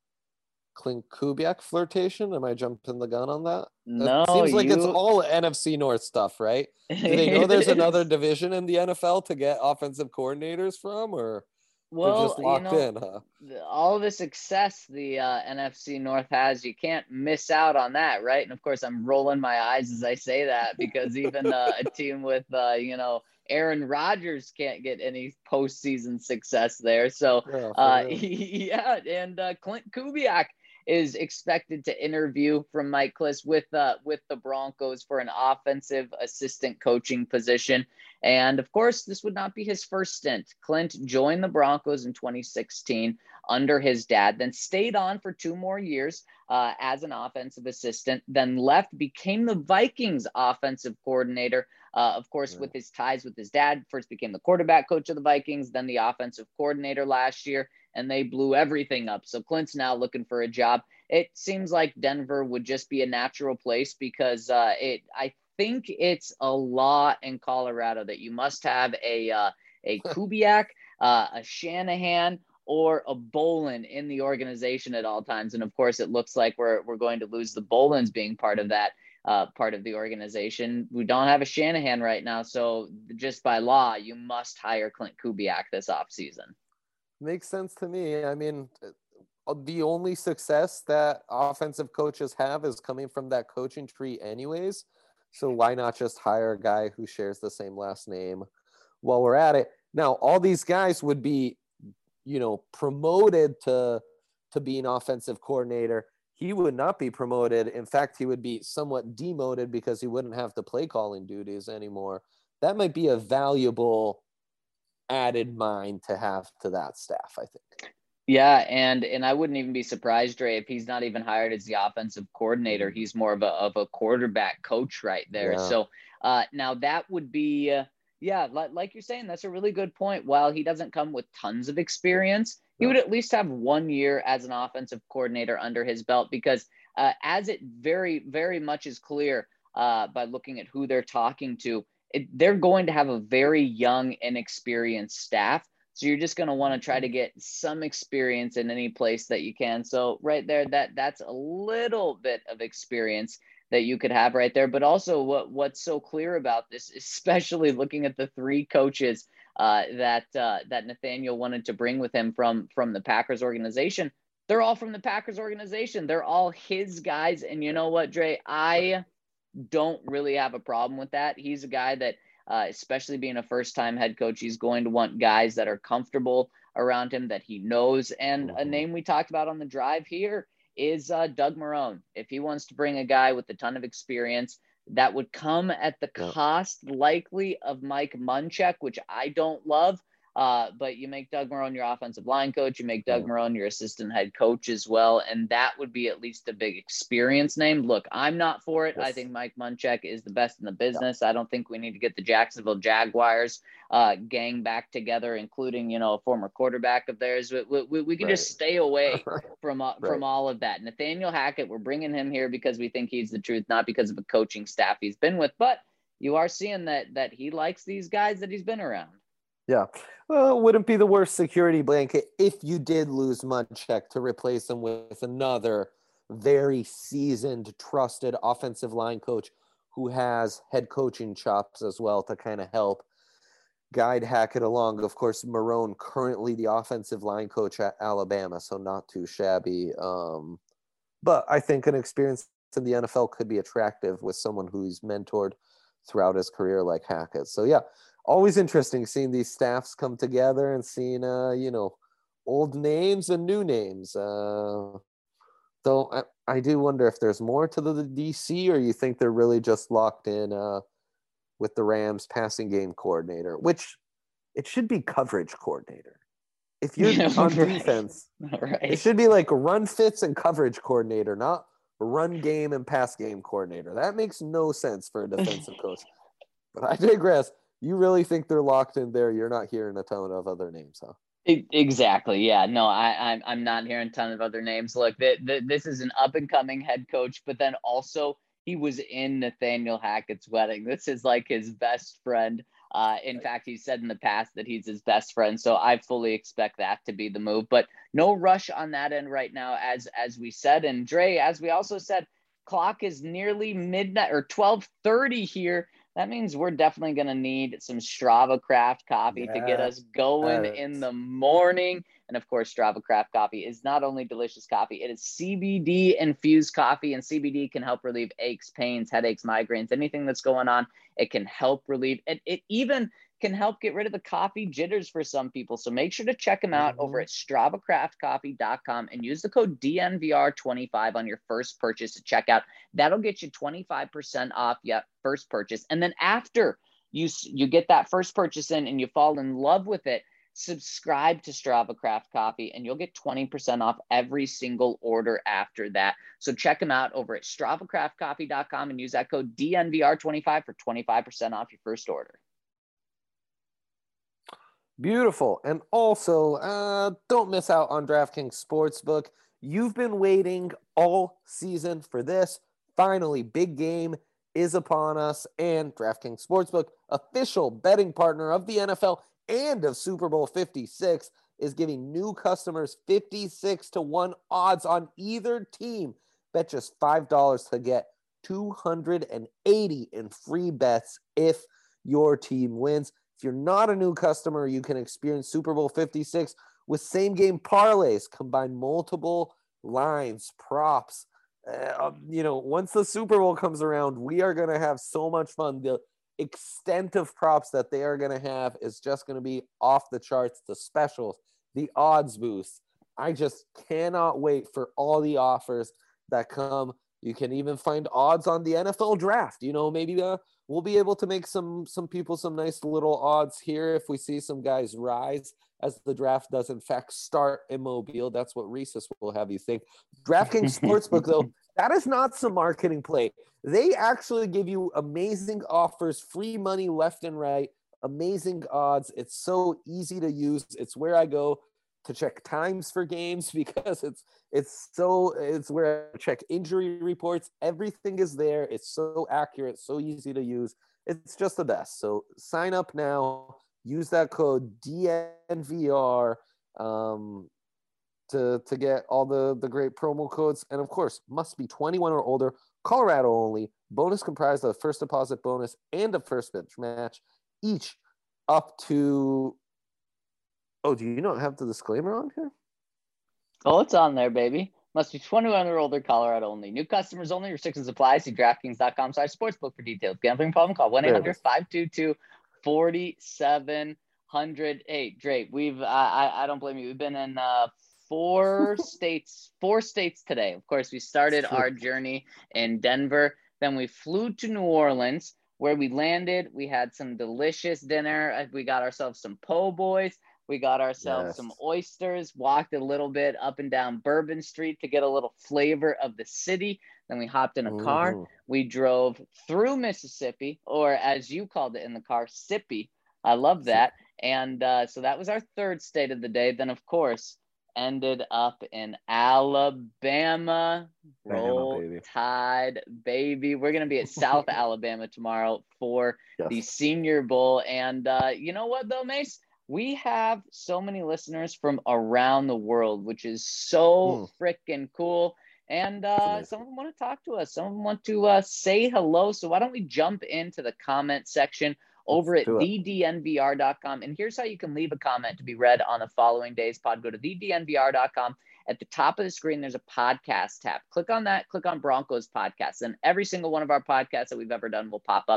Speaker 3: Clint Kubiak flirtation. Am I jumping the gun on that?
Speaker 2: No,
Speaker 3: It seems like
Speaker 2: you...
Speaker 3: it's all N F C North stuff, right? Do they know there's another division in the N F L to get offensive coordinators from, or
Speaker 2: well,
Speaker 3: they're just locked
Speaker 2: you know,
Speaker 3: in, huh?
Speaker 2: all the success the uh, N F C North has, you can't miss out on that, right? And of course, I'm rolling my eyes as I say that because even uh, a team with, uh, you know, Aaron Rodgers can't get any postseason success there. So,
Speaker 3: Yeah,
Speaker 2: uh,
Speaker 3: for real.
Speaker 2: yeah, and uh, Clint Kubiak is expected to interview from Mike Klis with uh, with the Broncos for an offensive assistant coaching position. And of course, this would not be his first stint. Clint joined the Broncos in twenty sixteen under his dad, then stayed on for two more years uh, as an offensive assistant, then left, became the Vikings offensive coordinator. Uh, of course,
Speaker 3: Yeah.
Speaker 2: with his ties with his dad, first became the quarterback coach of the Vikings, then the offensive coordinator last year, and they blew everything up. So Clint's now looking for a job. It seems like Denver would just be a natural place because uh, it, I think it's a law in Colorado that you must have a uh, a Kubiak, uh, a Shanahan, or a Bolin in the organization at all times. And of course, it looks like we're we're going to lose the Bolins being part of that uh, part of the organization. We don't have a Shanahan right now, so just by law, you must hire Clint Kubiak this offseason.
Speaker 3: Makes sense to me. I mean, the only success that offensive coaches have is coming from that coaching tree anyways. So why not just hire a guy who shares the same last name while we're at it? Now, all these guys would be, you know, promoted to, to be an offensive coordinator. He would not be promoted. In fact, he would be somewhat demoted because he wouldn't have the play calling duties anymore. That might be a valuable added mind to have to that staff, I think.
Speaker 2: Yeah, and and I wouldn't even be surprised, Dre, if he's not even hired as the offensive coordinator. He's more of a of a quarterback coach right there.
Speaker 3: Yeah.
Speaker 2: So uh, now that would be, uh, yeah, like, like you're saying, that's a really good point. While he doesn't come with tons of experience, he
Speaker 3: No.
Speaker 2: would at least have one year as an offensive coordinator under his belt because uh, as it very, very much is clear uh, by looking at who they're talking to, it, they're going to have a very young, inexperienced staff. So you're just going to want to try to get some experience in any place that you can. So right there, that that's a little bit of experience that you could have right there. But also what what's so clear about this, especially looking at the three coaches uh, that uh, that Nathaniel wanted to bring with him from from the Packers organization, they're all from the Packers organization. They're all his guys. And you know what, Dre, I don't really have a problem with that. He's a guy that, Uh, especially being a first-time head coach, he's going to want guys that are comfortable around him, that he knows. And
Speaker 3: Mm-hmm.
Speaker 2: a name we talked about on the drive here is uh, Doug Marrone. If he wants to bring a guy with a ton of experience, that would come at the
Speaker 3: Yeah.
Speaker 2: cost likely of Mike Munchak, which I don't love. Uh, but you make Doug Marrone your offensive line coach, you make Doug
Speaker 3: Yeah.
Speaker 2: Marrone your assistant head coach as well, and that would be at least a big experience name. Look, I'm not for it.
Speaker 3: Yes.
Speaker 2: I think Mike Munchak is the best in the business. Yeah. I don't think we need to get the Jacksonville Jaguars uh, gang back together, including, you know, a former quarterback of theirs. We, we, we can
Speaker 3: Right.
Speaker 2: just stay away from uh, from
Speaker 3: Right.
Speaker 2: all of that. Nathaniel Hackett, we're bringing him here because we think he's the truth, not because of a coaching staff he's been with. But you are seeing that that he likes these guys that he's been around.
Speaker 3: Yeah. Well, it wouldn't be the worst security blanket if you did lose Munchak to replace him with another very seasoned, trusted offensive line coach who has head coaching chops as well to kind of help guide Hackett along. Of course, Marrone, currently the offensive line coach at Alabama, so not too shabby. Um, but I think an experience in the N F L could be attractive with someone who he's mentored throughout his career like Hackett. So, yeah. always interesting seeing these staffs come together and seeing, uh, you know, old names and new names. Uh, though I, I do wonder if there's more to the, the D C, or you think they're really just locked in uh, with the Rams passing game coordinator, which it should be coverage coordinator. If you're on
Speaker 2: Right.
Speaker 3: defense,
Speaker 2: Right.
Speaker 3: it should be like run fits and coverage coordinator, not run game and pass game coordinator. That makes no sense for a defensive coach. But I digress. You really think they're locked in there? You're not hearing a ton of other names, huh?
Speaker 2: E- Exactly. Yeah. No, I, I'm I'm not hearing a ton of other names. Look, th- th- this is an up and coming head coach, but then also he was in Nathaniel Hackett's wedding. This is like his best friend. Uh, in fact, he said in the past that he's his best friend. So I fully expect that to be the move. But no rush on that end right now, as as we said. And Dre, as we also said, clock is nearly midnight or twelve thirty here. That means we're definitely going to need some Strava Craft coffee to get us going in the morning. And of course, Strava Craft coffee is not only delicious coffee, it is C B D infused coffee, and C B D can help relieve aches, pains, headaches, migraines, anything that's going on. It can help relieve it. It even can help get rid of the coffee jitters for some people. So make sure to check them out mm-hmm. over at strava craft coffee dot com and use the code D N V R twenty-five on your first purchase to check out. That'll get you twenty-five percent off your first purchase. And then after you, you get that first purchase in and you fall in love with it, subscribe to Strava Craft Coffee and you'll get twenty percent off every single order after that. So check them out over at strava craft coffee dot com and use that code D N V R twenty-five for twenty-five percent off your first order.
Speaker 3: Beautiful. And also, uh, don't miss out on DraftKings Sportsbook. You've been waiting all season for this. Finally, big game is upon us, and DraftKings Sportsbook, official betting partner of the N F L and of Super Bowl fifty-six, is giving new customers fifty-six to one odds on either team. Bet just five dollars to get two hundred eighty in free bets if your team wins. If you're not a new customer, you can experience Super Bowl fifty-six with same-game parlays, combine multiple lines, props. Uh, you know, once the Super Bowl comes around, we are going to have so much fun. The extent of props that they are going to have is just going to be off the charts. The specials, the odds boosts. I just cannot wait for all the offers that come. You can even find odds on the N F L draft. You know, maybe uh, we'll be able to make some some people some nice little odds here if we see some guys rise as the draft does in fact start in Mobile. That's what Reese's will have you think. DraftKings Sportsbook, though, that is not some marketing play. They actually give you amazing offers, free money left and right, amazing odds. It's so easy to use. It's where I go to check times for games because it's it's so it's where I check injury reports. Everything is there. It's so accurate, so easy to use. It's just the best. So sign up now. Use that code D N V R um, to to get all the the great promo codes. And of course, must be twenty-one or older. Colorado only. Bonus comprised of first deposit bonus and a first pitch match, each up to. Oh, do you not have the disclaimer on here?
Speaker 2: Oh, it's on there, baby. Must be twenty-one or older, Colorado only. New customers only. Restrictions apply. See DraftKings dot com slash sportsbook for details. Gambling problem? Call one eight hundred five two two four seven zero zero. Hey, Drake, we've, uh, I, I don't blame you. We've been in uh, four states, four states today. Of course, we started our journey in Denver. Then we flew to New Orleans, where we landed. We had some delicious dinner. We got ourselves some po' boys. We got ourselves yes. some oysters, walked a little bit up and down Bourbon Street to get a little flavor of the city. Then we hopped in a car. Ooh. We drove through Mississippi, or as you called it in the car, Sippy. I love that. And uh, so that was our third state of the day. Then, of course, ended up in Alabama. Roll baby. Tide, baby. We're going to be at South Alabama tomorrow for yes. the Senior Bowl. And uh, you know what, though, Mace? We have so many listeners from around the world, which is so mm. freaking cool. And uh, some of them want to talk to us. Some of them want to uh, say hello. So why don't we jump into the comment section over Let's at the D N V R dot com. And here's how you can leave a comment to be read on the following day's pod. Go to the D N V R dot com. At the top of the screen, there's a podcast tab. Click on that. Click on Broncos podcast. And every single one of our podcasts that we've ever done will pop up.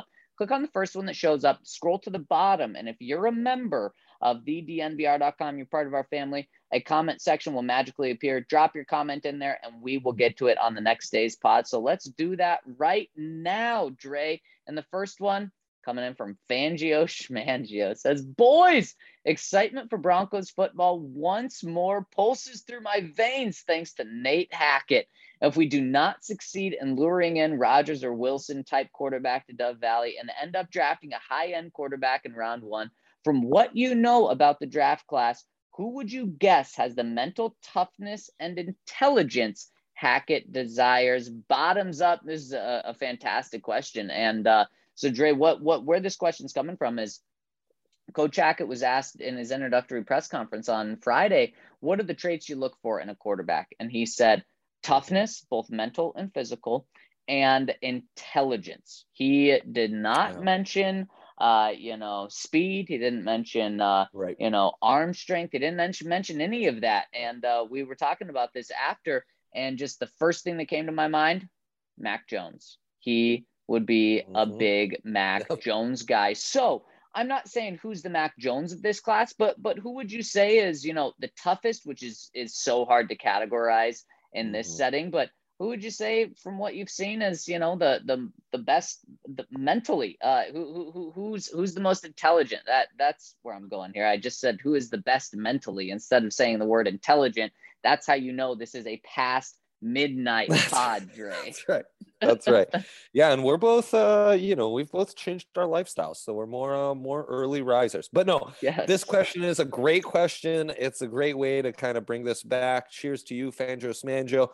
Speaker 2: click on the first one that shows up, scroll to the bottom. And if you're a member of the D N V R dot com, you're part of our family, a comment section will magically appear. Drop your comment in there and we will get to it on the next day's pod. So let's do that right now, Dre. And the first one coming in from Fangio Schmangio says, boys, excitement for Broncos football once more pulses through my veins thanks to Nate Hackett. If we do not succeed in luring in Rodgers or Wilson type quarterback to Dove Valley and end up drafting a high-end quarterback in round one, from what you know about the draft class, who would you guess has the mental toughness and intelligence Hackett desires? Bottoms up. This is a, a fantastic question. And uh, so, Dre, what what where this question's coming from is Coach Hackett was asked in his introductory press conference on Friday, what are the traits you look for in a quarterback? And he said, toughness, both mental and physical, and intelligence. He did not
Speaker 3: Yeah.
Speaker 2: mention, uh, you know, speed. He didn't mention, uh,
Speaker 3: Right.
Speaker 2: you know, arm strength. He didn't mention, mention any of that. And uh, we were talking about this after, and just the first thing that came to my mind, Mac Jones. He would be a
Speaker 3: Mhm.
Speaker 2: big Mac
Speaker 3: Yep.
Speaker 2: Jones guy. So I'm not saying who's the Mac Jones of this class, but but who would you say is, you know, the toughest, which is is so hard to categorize in this
Speaker 3: Mhm.
Speaker 2: setting, but who would you say from what you've seen as, you know, the the the best the, mentally, uh who, who who's who's the most intelligent? That that's where I'm going here. I just said who is the best mentally instead of saying the word intelligent. That's how you know this is a past midnight pod, Dre.
Speaker 3: That's right. That's right. Yeah, and we're both uh, you know, we've both changed our lifestyles, so we're more uh, more early risers. But no,
Speaker 2: Yes.
Speaker 3: this question is a great question. It's a great way to kind of bring this back. Cheers to you, Fangio Smanjo.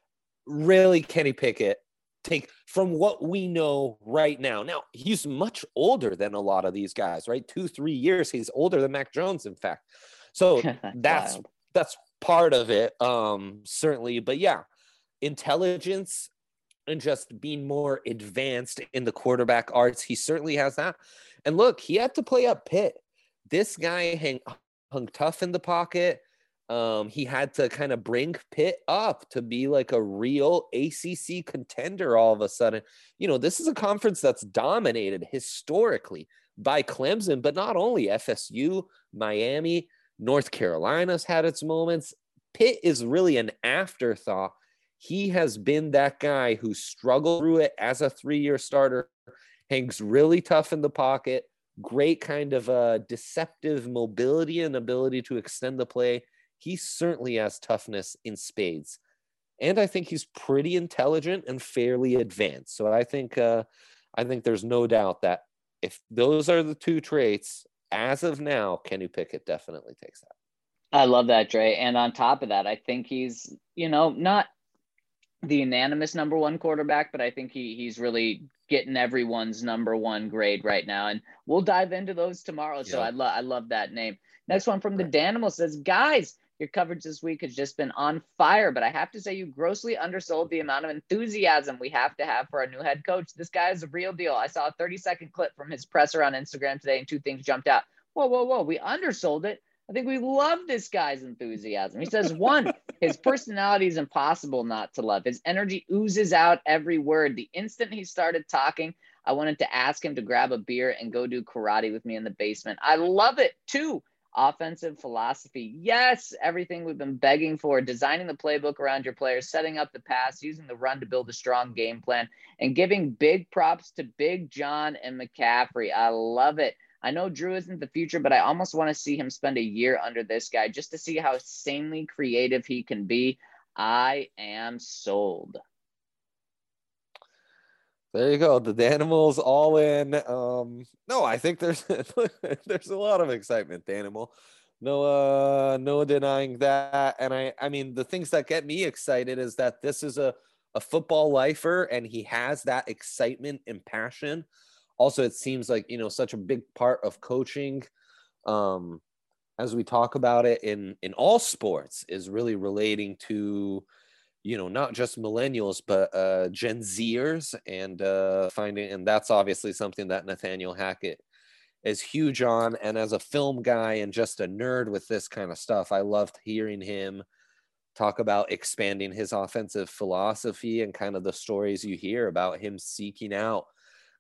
Speaker 3: Really, Kenny Pickett, take from what we know right now. Now, he's much older than a lot of these guys, right? Two, three years. He's older than Mac Jones, in fact. So
Speaker 2: That's
Speaker 3: that's
Speaker 2: wild.
Speaker 3: that's part of it, um, certainly. But yeah, intelligence and just being more advanced in the quarterback arts. He certainly has that. And look, he had to play up Pitt. This guy hang, hung tough in the pocket. Um, he had to kind of bring Pitt up to be like a real A C C contender all of a sudden. You know, this is a conference that's dominated historically by Clemson, but not only F S U, Miami, North Carolina's had its moments. Pitt is really an afterthought. He has been that guy who struggled through it as a three-year starter, hangs really tough in the pocket, great kind of uh, deceptive mobility and ability to extend the play. He certainly has toughness in spades. And I think he's pretty intelligent and fairly advanced. So I think uh, I think there's no doubt that if those are the two traits, as of now, Kenny Pickett definitely takes that.
Speaker 2: I love that, Dre. And on top of that, I think he's, you know, not the unanimous number one quarterback, but I think he he's really getting everyone's number one grade right now. And we'll dive into those tomorrow. So
Speaker 3: Yeah.
Speaker 2: I love I love that name. Next one from the
Speaker 3: Right.
Speaker 2: Danimal says, guys, your coverage this week has just been on fire, but I have to say you grossly undersold the amount of enthusiasm we have to have for our new head coach. This guy is a real deal. I saw a thirty second clip from his presser on Instagram today and two things jumped out. Whoa, whoa, whoa. We undersold it. I think we love this guy's enthusiasm. He says, one, his personality is impossible not to love. His energy oozes out every word. The instant he started talking, I wanted to ask him to grab a beer and go do karate with me in the basement. I love it. Two, offensive philosophy. Yes, everything we've been begging for, designing the playbook around your players, setting up the pass, using the run to build a strong game plan, and giving big props to Big John and McCaffrey. I love it. I know Drew isn't the future, but I almost want to see him spend a year under this guy just to see how insanely creative he can be. I am sold.
Speaker 3: There you go. The Danimals all in. Um, no, I think there's there's a lot of excitement, Danimal. No, uh, no denying that. And I, I mean, the things that get me excited is that this is a a football lifer, and he has that excitement and passion. Also, it seems like, you know, such a big part of coaching, um, as we talk about it in in all sports, is really relating to, you know, not just millennials, but uh, Gen Zers, and uh, finding, and that's obviously something that Nathaniel Hackett is huge on. And as a film guy and just a nerd with this kind of stuff, I loved hearing him talk about expanding his offensive philosophy and kind of the stories you hear about him seeking out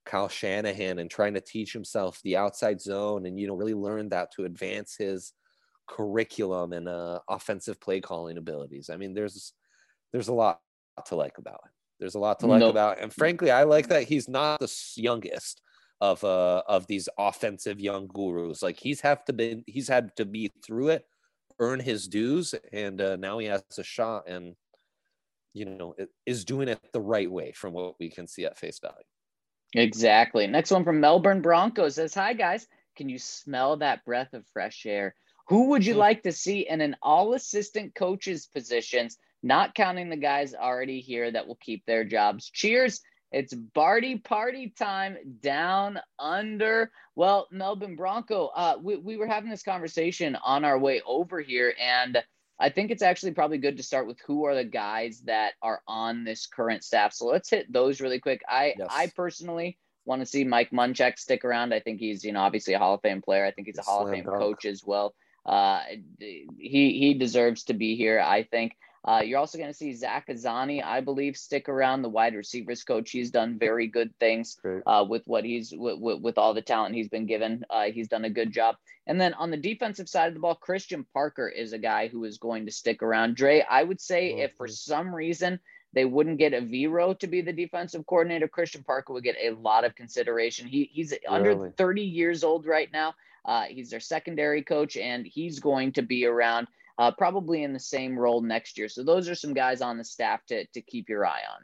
Speaker 3: Kyle Shanahan and trying to teach himself the outside zone and, you know, really learn that to advance his curriculum and uh, offensive play calling abilities. I mean, there's there's a lot to like about it. There's a lot to like
Speaker 2: No.
Speaker 3: about it. And frankly, I like that he's not the youngest of uh of these offensive young gurus. Like he's have to be he's had to be through it, earn his dues, and uh, now he has a shot and, you know, is doing it the right way from what we can see at face value.
Speaker 2: Exactly. Next one from Melbourne Broncos says, hi guys, can you smell that breath of fresh air? Who would you like to see in an all assistant coaches positions, not counting the guys already here that will keep their jobs? Cheers. It's Barty party time down under. Well, Melbourne Bronco, uh, we, we were having this conversation on our way over here, and I think it's actually probably good to start with who are the guys that are on this current staff. So let's hit those really quick. I, yes. I personally want to see Mike Munchak stick around. I think he's, you know, obviously a Hall of Fame player. I think he's a Hall of Fame coach as well. Uh, he, he deserves to be here, I think. Uh, you're also going to see Zach Azzanni, I believe, stick around, the wide receivers coach. He's done very good things uh, with what he's with, with, with all the talent he's been given. Uh, he's done a good job. And then on the defensive side of the ball, Christian Parker is a guy who is going to stick around. Dre, I would say mm-hmm. if for some reason they wouldn't get a Vero to be the defensive coordinator, Christian Parker would get a lot of consideration. He he's really? under thirty years old right now. Uh, he's their secondary coach, and he's going to be around. Uh, probably in the same role next year. So those are some guys on the staff to to keep your eye on.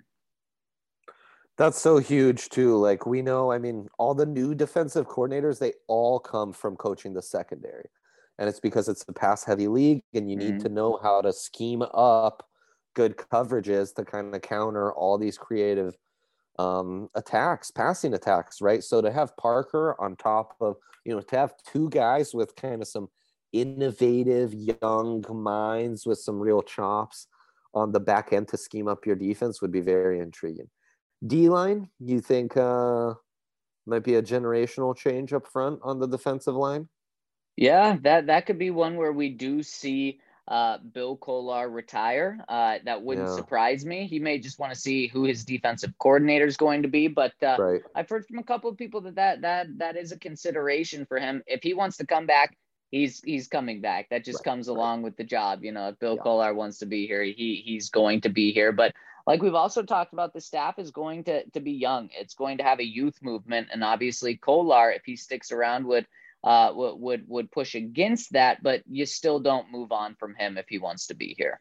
Speaker 3: That's so huge too. Like we know, I mean, all the new defensive coordinators, they all come from coaching the secondary. And it's because it's a pass heavy league and you need mm-hmm. to know how to scheme up good coverages to kind of counter all these creative um, attacks, passing attacks, right? So to have Parker on top of, you know, to have two guys with kind of some innovative young minds with some real chops on the back end to scheme up your defense would be very intriguing. D-line, you think uh, might be a generational change up front on the defensive line?
Speaker 2: Yeah, that, that could be one where we do see uh, Bill Kollar retire. Uh, that wouldn't yeah. surprise me. He may just want to see who his defensive coordinator is going to be, but uh, right. I've heard from a couple of people that, that that that is a consideration for him. If he wants to come back, He's he's coming back. That just right, comes along right. with the job. You know, if Bill yeah. Kollar wants to be here, he he's going to be here. But like we've also talked about, the staff is going to to be young. It's going to have a youth movement, and obviously Kollar, if he sticks around, would uh would would would push against that. But you still don't move on from him if he wants to be here.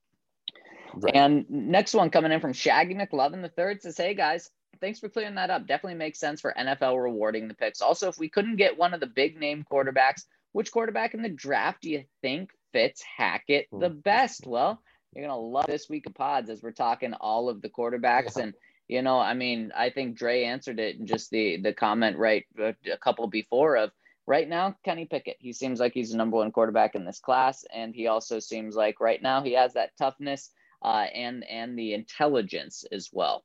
Speaker 2: Right. And next one coming in from Shaggy McLovin the third says, "Hey guys, thanks for clearing that up. Definitely makes sense for N F L rewarding the picks. Also, if we couldn't get one of the big name quarterbacks, which quarterback in the draft do you think fits Hackett the best?" Well, you're going to love this week of pods as we're talking all of the quarterbacks. Yeah. And, you know, I mean, I think Dre answered it in just the, the comment right a couple before of right now, Kenny Pickett. He seems like he's the number one quarterback in this class. And he also seems like right now he has that toughness uh, and, and the intelligence as well.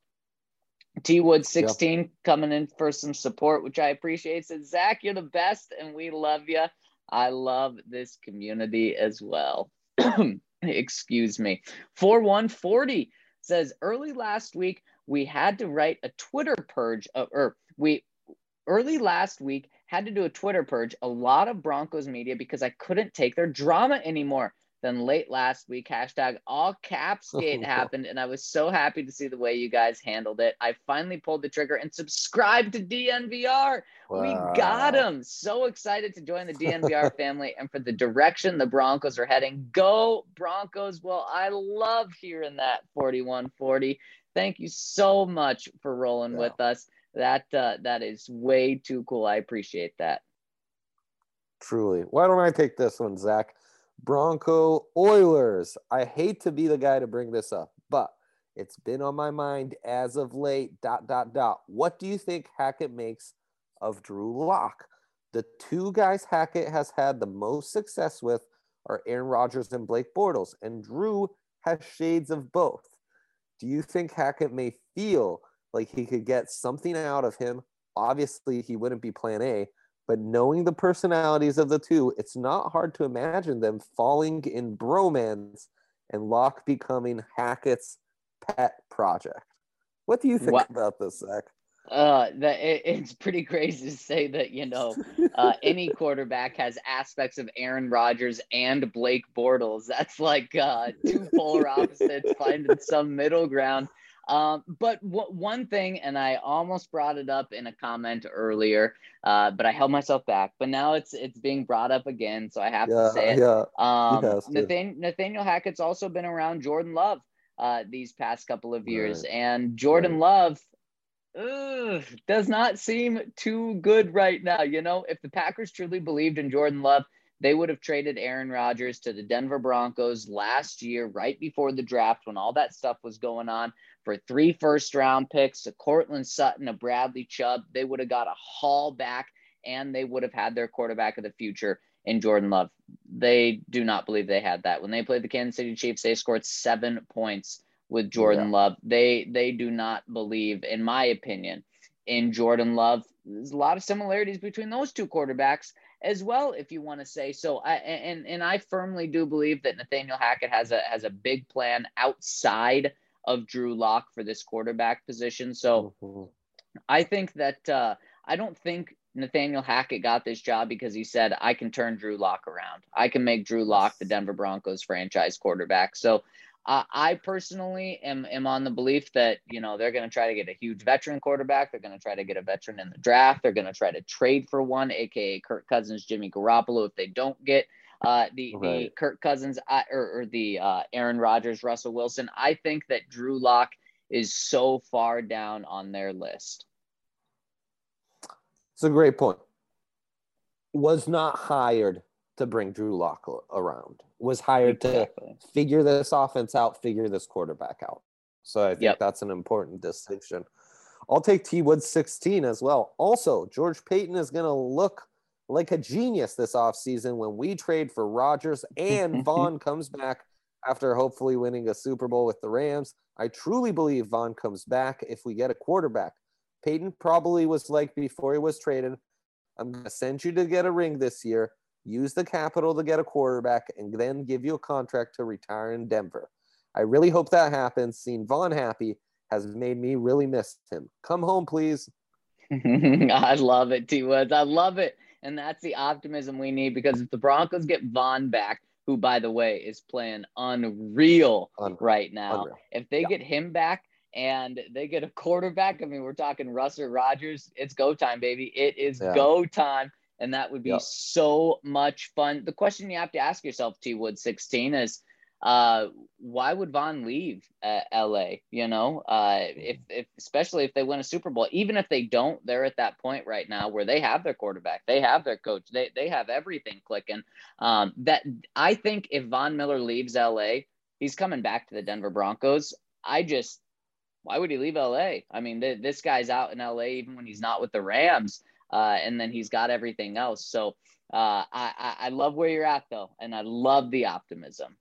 Speaker 2: T Wood sixteen yep. coming in for some support, which I appreciate. Says, Zach, you're the best and we love you. I love this community as well. Excuse me. four one forty says, early last week, we had to write a Twitter purge, of, or we early last week had to do a Twitter purge, a lot of Broncos media because I couldn't take their drama anymore. Then late last week, hashtag all caps gate happened, and I was so happy to see the way you guys handled it. I finally pulled the trigger and subscribed to D N V R. Wow. We got him. So excited to join the D N V R family and for the direction the Broncos are heading. Go Broncos. Well, I love hearing that, forty-one forty. Thank you so much for rolling yeah. with us. That uh, that is way too cool. I appreciate that.
Speaker 3: Truly. Why don't I take this one, Zach? Bronco Oilers. I hate to be the guy to bring this up, but it's been on my mind as of late, dot, dot, dot. What do you think Hackett makes of Drew Lock? The two guys Hackett has had the most success with are Aaron Rodgers and Blake Bortles, and Drew has shades of both. Do you think Hackett may feel like he could get something out of him? Obviously, he wouldn't be plan A, but knowing the personalities of the two, it's not hard to imagine them falling in bromance and Locke becoming Hackett's pet project. What do you think
Speaker 2: what?
Speaker 3: about this, Zach?
Speaker 2: Uh, that it, it's pretty crazy to say that, you know, uh, any quarterback has aspects of Aaron Rodgers and Blake Bortles. That's like uh, two polar opposites finding some middle ground. Um, but w- one thing, and I almost brought it up in a comment earlier, uh, but I held myself back. But now it's it's being brought up again, so I have to
Speaker 3: Yeah,
Speaker 2: say it.
Speaker 3: yeah. You
Speaker 2: Um,
Speaker 3: have to.
Speaker 2: Nathan, Nathaniel Hackett's also been around Jordan Love uh, these past couple of years,
Speaker 3: Right,
Speaker 2: and Jordan
Speaker 3: right.
Speaker 2: Love ugh, does not seem too good right now. You know, if the Packers truly believed in Jordan Love, they would have traded Aaron Rodgers to the Denver Broncos last year, right before the draft, when all that stuff was going on, for three first round picks, a Cortland Sutton, a Bradley Chubb. They would have got a haul back, and they would have had their quarterback of the future in Jordan Love. They do not believe they had that. When they played the Kansas City Chiefs, they scored seven points with
Speaker 3: Yeah.
Speaker 2: Jordan Love. They they do not believe, in my opinion, in Jordan Love. There's a lot of similarities between those two quarterbacks as well, if you want to say so. I and and I firmly do believe that Nathaniel Hackett has a has a big plan outside of Drew Lock for this quarterback position. So
Speaker 3: Mm-hmm.
Speaker 2: I think that uh, I don't think Nathaniel Hackett got this job because he said, I can turn Drew Lock around. I can make Drew Lock the Denver Broncos franchise quarterback. So uh, I personally am, am on the belief that, you know, they're going to try to get a huge veteran quarterback. They're going to try to get a veteran in the draft. They're going to try to trade for one, A K A Kirk Cousins, Jimmy Garoppolo, if they don't get uh, the,
Speaker 3: Right.
Speaker 2: the Kirk Cousins uh, or, or the uh, Aaron Rodgers, Russell Wilson. I think that Drew Lock is so far down on their list.
Speaker 3: It's a great point. Was not hired to bring Drew Lock around. Was hired
Speaker 2: Exactly.
Speaker 3: to figure this offense out, figure this quarterback out. So I think
Speaker 2: Yep.
Speaker 3: that's an important distinction. I'll take T. Woods sixteen as well. Also, George Paton is going to look like a genius this offseason when we trade for Rodgers and Vaughn comes back after hopefully winning a Super Bowl with the Rams. I truly believe Vaughn comes back if we get a quarterback. Paton probably was like before he was traded, I'm going to send you to get a ring this year, use the capital to get a quarterback, and then give you a contract to retire in Denver. I really hope that happens. Seeing Vaughn happy has made me really miss him. Come home, please.
Speaker 2: I love it, T. Woods. I love it. And that's the optimism we need, because if the Broncos get Vaughn back, who, by the way, is playing unreal, unreal. right now, unreal. if they yeah. get him back and they get a quarterback, I mean, we're talking Russ or Rodgers, it's go time, baby. It is yeah. go time. And that would be yep. so much fun. The question you have to ask yourself, T. Wood sixteen, is uh, why would Vaughn leave uh, L A? You know, uh, if, if especially if they win a Super Bowl, even if they don't, they're at that point right now where they have their quarterback, they have their coach, they they have everything clicking. Um, that I think if Von Miller leaves L A, he's coming back to the Denver Broncos. I just, why would he leave L A? I mean, th- this guy's out in L A even when he's not with the Rams, uh, and then he's got everything else. So uh, I, I I love where you're at though, and I love the optimism.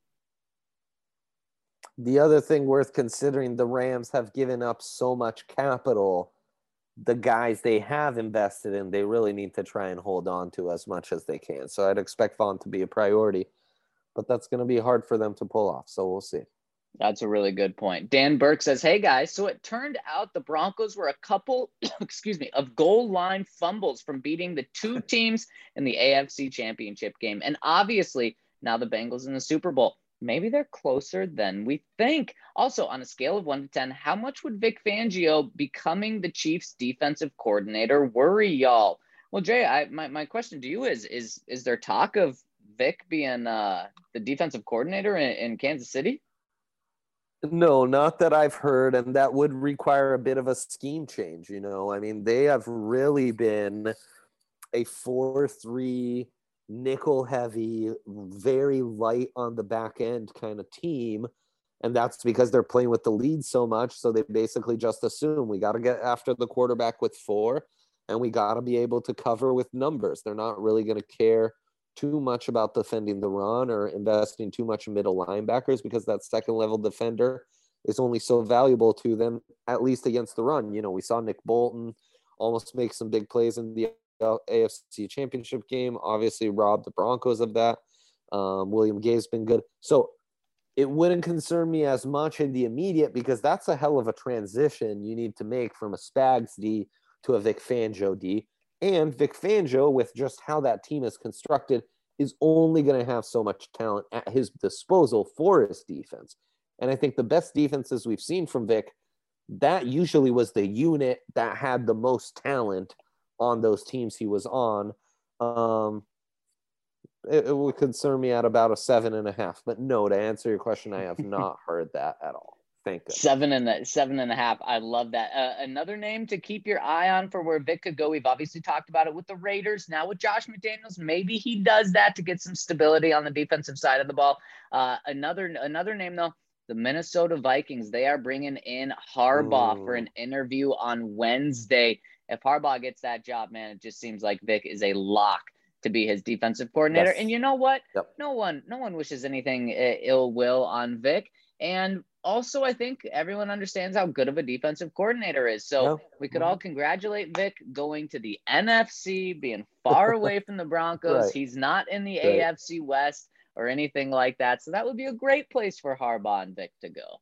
Speaker 3: The other thing worth considering, the Rams have given up so much capital. The guys they have invested in, they really need to try and hold on to as much as they can. So I'd expect Vaughn to be a priority, but that's going to be hard for them to pull off. So we'll see.
Speaker 2: That's a really good point. Dan Burke says, hey guys, so it turned out the Broncos were a couple, excuse me, of goal line fumbles from beating the two teams in the A F C Championship game. And obviously now the Bengals in the Super Bowl. Maybe they're closer than we think. Also, on a scale of one to ten, how much would Vic Fangio becoming the Chiefs defensive coordinator worry y'all? Well, Jay, I, my, my question to you is, is, is there talk of Vic being uh, the defensive coordinator in, in Kansas City?
Speaker 3: No, not that I've heard, and that would require a bit of a scheme change, you know. I mean, they have really been a four three nickel heavy, very light on the back end kind of team, and that's because they're playing with the lead so much, so they basically just assume we got to get after the quarterback with four, and we got to be able to cover with numbers. They're not really going to care too much about defending the run or investing too much in middle linebackers, because that second level defender is only so valuable to them, at least against the run. You know, we saw Nick Bolton almost make some big plays in the A F C Championship game, obviously robbed the Broncos of that. Um, William Gay's been good. So it wouldn't concern me as much in the immediate because that's a hell of a transition you need to make from a Spags D to a Vic Fangio D. And Vic Fangio, with just how that team is constructed, is only going to have so much talent at his disposal for his defense. And I think the best defenses we've seen from Vic, that usually was the unit that had the most talent on those teams he was on. Um, it, it would concern me at about a seven and a half. But no, to answer your question, I have not heard that at all. Thank goodness.
Speaker 2: Seven and a, seven and a half. I love that. Uh, another name to keep your eye on for where Vic could go. We've obviously talked about it with the Raiders. Now with Josh McDaniels, maybe he does that to get some stability on the defensive side of the ball. Uh, another another name though, the Minnesota Vikings. They are bringing in Harbaugh Ooh. for an interview on Wednesday. If Harbaugh gets that job, man, it just seems like Vic is a lock to be his defensive coordinator. Yes. And you know what? Yep. No one, no one wishes anything ill will on Vic. And also, I think everyone understands how good of a defensive coordinator is. So yep. we could all congratulate Vic going to the N F C, being far away from the Broncos. Right. He's not in the right. A F C West or anything like that. So that would be a great place for Harbaugh and Vic to go.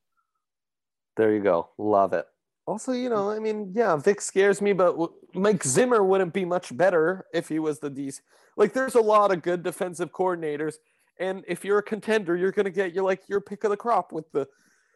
Speaker 3: There you go. Love it. Also, you know, I mean, yeah, Vic scares me, but Mike Zimmer wouldn't be much better if he was the D C. Like, there's a lot of good defensive coordinators. And if you're a contender, you're going to get your, like, your pick of the crop with the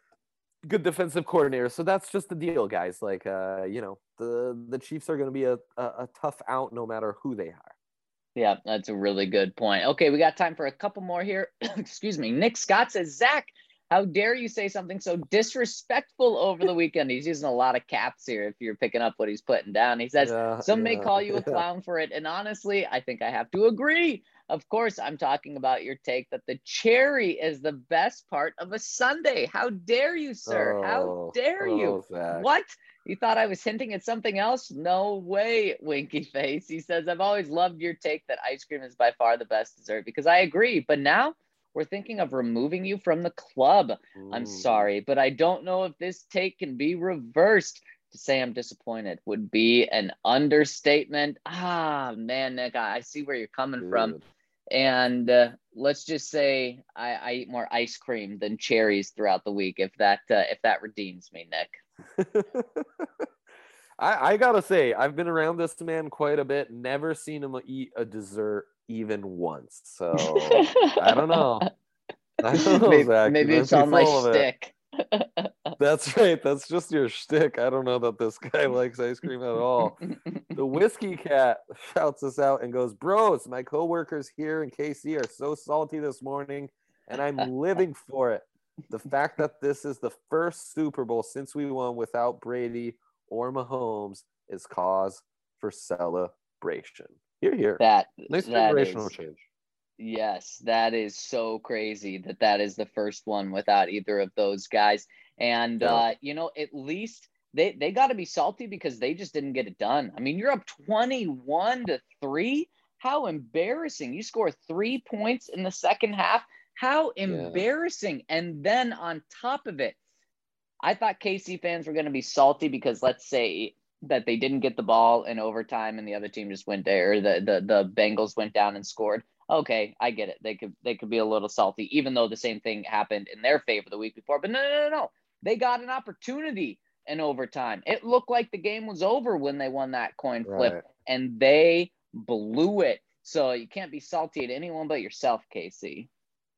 Speaker 3: good defensive coordinator. So that's just the deal, guys. Like, uh, you know, the, the Chiefs are going to be a, a, a tough out no matter who they are.
Speaker 2: Yeah, that's a really good point. Okay, we got time for a couple more here. Excuse me. Nick Scott says, Zach, how dare you say something so disrespectful over the weekend? He's using a lot of caps here if you're picking up what he's putting down. He says, yeah, some yeah, may call you a clown for it. And honestly, I think I have to agree. Of course, I'm talking about your take that the cherry is the best part of a sundae. How dare you, sir? Oh, How dare oh, you? Zach. What? You thought I was hinting at something else? No way, winky face. He says, I've always loved your take that ice cream is by far the best dessert because I agree. But now we're thinking of removing you from the club. Mm. I'm sorry, but I don't know if this take can be reversed. To say I'm disappointed would be an understatement. Ah, man, Nick, I see where you're coming Dude. from. And uh, let's just say I, I eat more ice cream than cherries throughout the week. If that uh, if that redeems me, Nick.
Speaker 3: I, I gotta say, I've been around this man quite a bit. Never seen him eat a dessert even once. So I don't know. I don't know,
Speaker 2: maybe,
Speaker 3: Zach.
Speaker 2: Maybe it's on my shtick.
Speaker 3: That's right. That's just your shtick. I don't know that this guy likes ice cream at all. The Whiskey Cat shouts us out and goes, bros, my coworkers here in K C are so salty this morning, and I'm living for it. The fact that this is the first Super Bowl since we won without Brady or Mahomes is cause for celebration. Here, here.
Speaker 2: That,
Speaker 3: nice
Speaker 2: that
Speaker 3: generational
Speaker 2: is,
Speaker 3: change.
Speaker 2: Yes, that is so crazy that that is the first one without either of those guys. And, yeah. uh, you know, at least they, they got to be salty because they just didn't get it done. I mean, you're up twenty-one to three. How embarrassing. You score three points in the second half. How embarrassing. Yeah. And then on top of it, I thought K C fans were going to be salty because let's say that they didn't get the ball in overtime and the other team just went there, or the, the, the Bengals went down and scored. Okay, I get it. They could they could be a little salty, even though the same thing happened in their favor the week before. But no, no, no, no. They got an opportunity in overtime. It looked like the game was over when they won that coin flip, right. and they blew it. So you can't be salty at anyone but yourself, K C.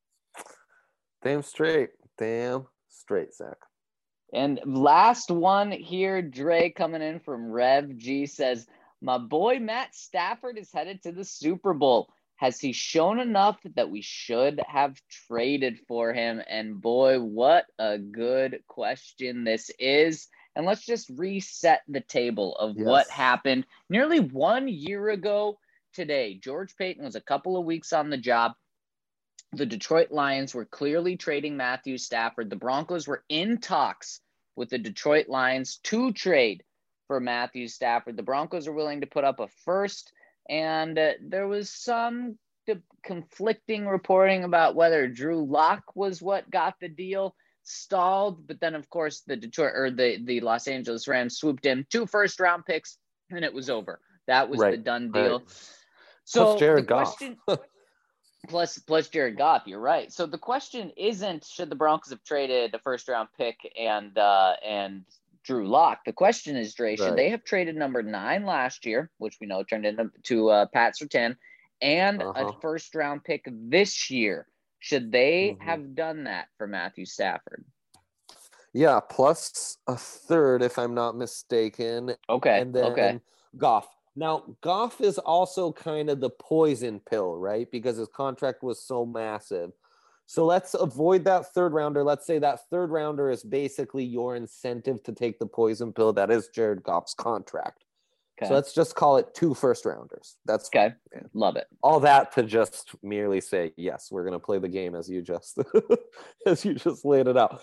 Speaker 3: Damn straight. Damn straight, Zach.
Speaker 2: And last one here, Dre coming in from Rev G says, my boy Matt Stafford is headed to the Super Bowl. Has he shown enough that we should have traded for him? And boy, what a good question this is. And let's just reset the table of yes. what happened nearly one year ago today. George Payton was a couple of weeks on the job. The Detroit Lions were clearly trading Matthew Stafford. The Broncos were in talks with the Detroit Lions to trade for Matthew Stafford. The Broncos are willing to put up a first. And uh, there was some de- conflicting reporting about whether Drew Lock was what got the deal stalled. But then, of course, the Detroit or the, the Los Angeles Rams swooped in two first round picks and it was over. That was right. the done deal.
Speaker 3: Right.
Speaker 2: So
Speaker 3: Plus Jared
Speaker 2: the question, Plus, plus Jared Goff, you're right. So the question isn't should the Broncos have traded a first round pick and uh, and Drew Lock. The question is, Dre, should
Speaker 3: Right.
Speaker 2: they have traded number nine last year, which we know turned into to uh, Pat Surtain, and
Speaker 3: Uh-huh.
Speaker 2: a first round pick this year? Should they
Speaker 3: Mhm.
Speaker 2: have done that for Matthew Stafford?
Speaker 3: Yeah, plus a third, if I'm not mistaken.
Speaker 2: Okay.
Speaker 3: And then
Speaker 2: okay.
Speaker 3: Goff. Now, Goff is also kind of the poison pill, right? Because his contract was so massive. So let's avoid that third rounder. Let's say that third rounder is basically your incentive to take the poison pill. That is Jared Goff's contract.
Speaker 2: Okay.
Speaker 3: So let's just call it two first rounders. That's
Speaker 2: okay.
Speaker 3: fine.
Speaker 2: Love it.
Speaker 3: All that to just merely say, yes, we're going to play the game as you just as you just laid it out.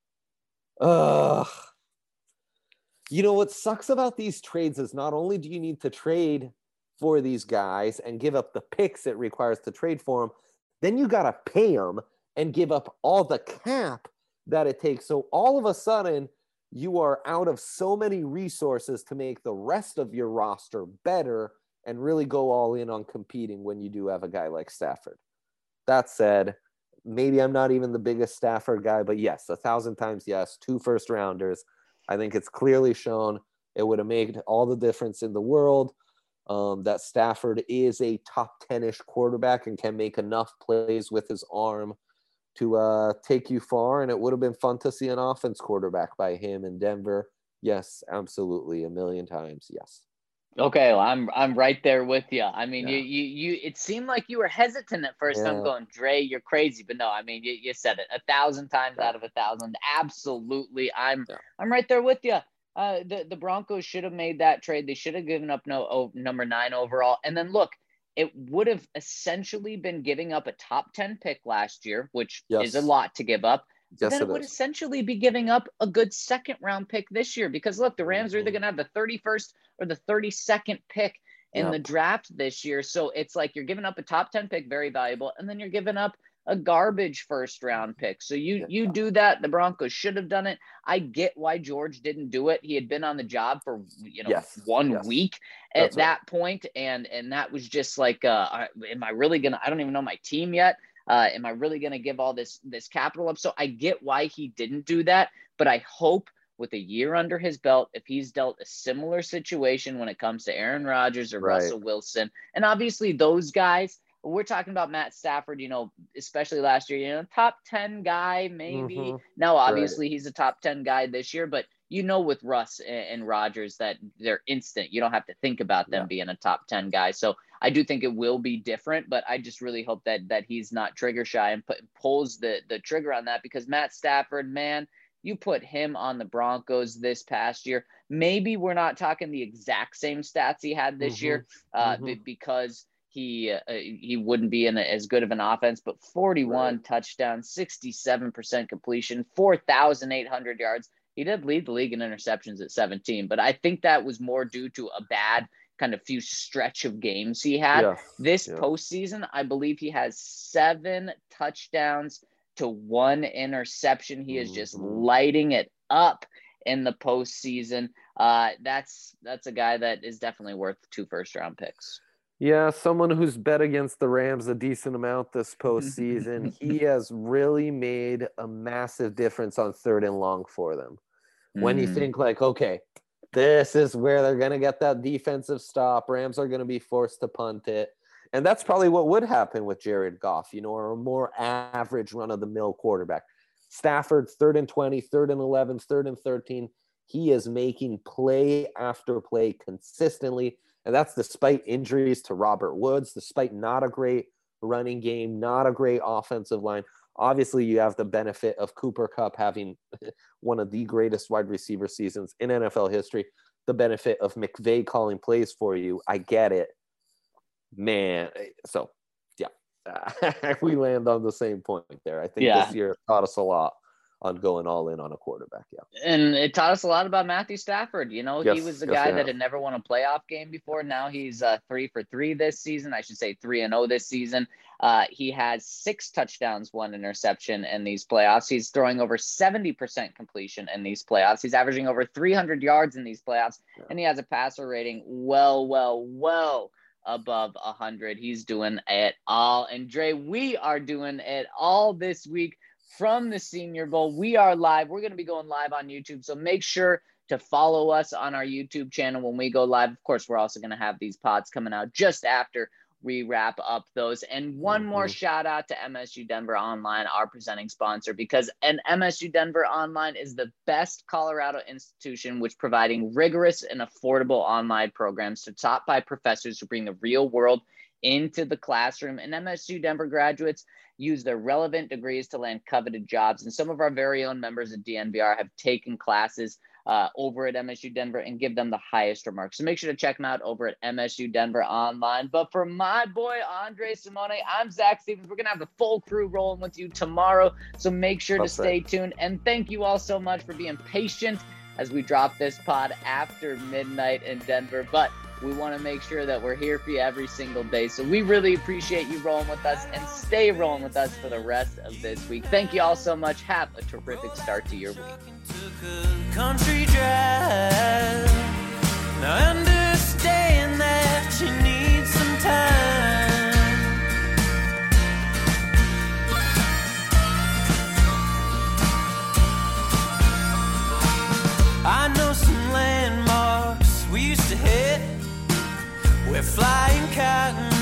Speaker 3: Ugh. You know what sucks about these trades is not only do you need to trade for these guys and give up the picks it requires to trade for them, then you got to pay them and give up all the cap that it takes. So all of a sudden, you are out of so many resources to make the rest of your roster better and really go all in on competing when you do have a guy like Stafford. That said, maybe I'm not even the biggest Stafford guy, but yes, a thousand times yes, two first rounders. I think it's clearly shown it would have made all the difference in the world. Um, that Stafford is a top ten-ish quarterback and can make enough plays with his arm to uh, take you far. And it would have been fun to see an offense quarterback by him in Denver. Yes, absolutely. A million times. Yes.
Speaker 2: Okay, well, I'm I'm right there with you. I mean,
Speaker 3: Yeah.
Speaker 2: you you you. It seemed like you were hesitant at first.
Speaker 3: Yeah.
Speaker 2: I'm going, Dre, you're crazy, but no, I mean, you, you said it a thousand times
Speaker 3: Yeah.
Speaker 2: out of a thousand. Absolutely, I'm
Speaker 3: Yeah.
Speaker 2: I'm right there with you. Uh, the the Broncos should have made that trade. They should have given up no oh, number nine overall, and then look, it would have essentially been giving up a top ten pick last year, which
Speaker 3: Yes.
Speaker 2: is a lot to give up.
Speaker 3: Yes,
Speaker 2: Then it,
Speaker 3: it
Speaker 2: would
Speaker 3: is.
Speaker 2: essentially be giving up a good second round pick this year because look, the Rams are either
Speaker 3: Mhm.
Speaker 2: going to have the thirty-first or the thirty-second pick in
Speaker 3: Yep.
Speaker 2: the draft this year. So it's like you're giving up a top ten pick, very valuable, and then you're giving up a garbage first round pick. So you
Speaker 3: Yeah.
Speaker 2: you do that. The Broncos should have done it. I get why George didn't do it. He had been on the job for you know
Speaker 3: Yes.
Speaker 2: one
Speaker 3: Yes.
Speaker 2: week at
Speaker 3: That's right.
Speaker 2: that point, and and that was just like, uh, am I really gonna? I don't even know my team yet. Uh, am I really going to give all this this capital up? So I get why he didn't do that, but I hope with a year under his belt, if he's dealt a similar situation when it comes to Aaron Rodgers or
Speaker 3: Right.
Speaker 2: Russell Wilson, and obviously those guys, we're talking about Matt Stafford, you know, especially last year, you know, top ten guy, maybe.
Speaker 3: Mhm.
Speaker 2: Now, obviously he's a top ten guy this year, but you know, with Russ and, and Rodgers that they're instant. You don't have to think about them
Speaker 3: Yeah.
Speaker 2: being a top ten guy. So I do think it will be different, but I just really hope that that he's not trigger shy and put, pulls the the trigger on that because Matt Stafford, man, you put him on the Broncos this past year. Maybe we're not talking the exact same stats he had this
Speaker 3: Mhm.
Speaker 2: year uh,
Speaker 3: Mhm.
Speaker 2: b- because he uh, he wouldn't be in a, as good of an offense, but forty-one
Speaker 3: Right.
Speaker 2: touchdowns, sixty-seven percent completion, four thousand eight hundred yards. He did lead the league in interceptions at seventeen, but I think that was more due to a bad kind of few stretch of games he had.
Speaker 3: Yes.
Speaker 2: This
Speaker 3: Yeah.
Speaker 2: postseason, I believe he has seven touchdowns to one interception. He is just
Speaker 3: Mhm.
Speaker 2: lighting it up in the postseason. Uh, that's that's a guy that is definitely worth two first round picks.
Speaker 3: Yeah, someone who's bet against the Rams a decent amount this postseason. He has really made a massive difference on third and long for them. When you
Speaker 2: Mm.
Speaker 3: think like, okay, this is where they're going to get that defensive stop. Rams are going to be forced to punt it. And that's probably what would happen with Jared Goff, you know, or a more average run-of-the-mill quarterback. Stafford, third and twenty, third and eleven, third and thirteen. He is making play after play consistently. And that's despite injuries to Robert Woods, despite not a great running game, not a great offensive line. Obviously, you have the benefit of Cooper Kupp having one of the greatest wide receiver seasons in N F L history, the benefit of McVay calling plays for you. I get it. Man, so, yeah, we land on the same point there. I think
Speaker 2: Yeah.
Speaker 3: this year taught us a lot on going all in on a quarterback, yeah.
Speaker 2: And it taught us a lot about Matthew Stafford. You know,
Speaker 3: Yes,
Speaker 2: he was the
Speaker 3: yes,
Speaker 2: guy
Speaker 3: we
Speaker 2: that
Speaker 3: have.
Speaker 2: had never won a playoff game before. Now he's uh, three for three this season. I should say three and oh this season. Uh, he has six touchdowns, one interception in these playoffs. He's throwing over seventy percent completion in these playoffs. He's averaging over three hundred yards in these playoffs.
Speaker 3: Yeah.
Speaker 2: And he has a passer rating well, well, well above one hundred. He's doing it all. And Dre, we are doing it all this week from the Senior Bowl. We are live. We're going to be going live on YouTube. So make sure to follow us on our YouTube channel when we go live. Of course, we're also going to have these pods coming out just after we wrap up those. And one mm-hmm. more shout out to M S U Denver Online, our presenting sponsor, because an M S U Denver Online is the best Colorado institution which providing rigorous and affordable online programs to taught by professors who bring the real world into the classroom. And M S U Denver graduates use their relevant degrees to land coveted jobs. And some of our very own members of D N V R have taken classes Uh, over at M S U Denver and give them the highest remarks. So make sure to check them out over at M S U Denver Online. But for my boy, Andre Simone, I'm Zach Stevens. We're going to have the full crew rolling with you tomorrow. So make sure That's to stay right. tuned. And thank you all so much for being patient as we drop this pod after midnight in Denver. But we want to make sure that we're here for you every single day. So we really appreciate you rolling with us, and stay rolling with us for the rest of this week. Thank you all so much. Have a terrific start to your week. Country drive. Now understand that you need some time. I know some landmarks we used to hit. We're flying cotton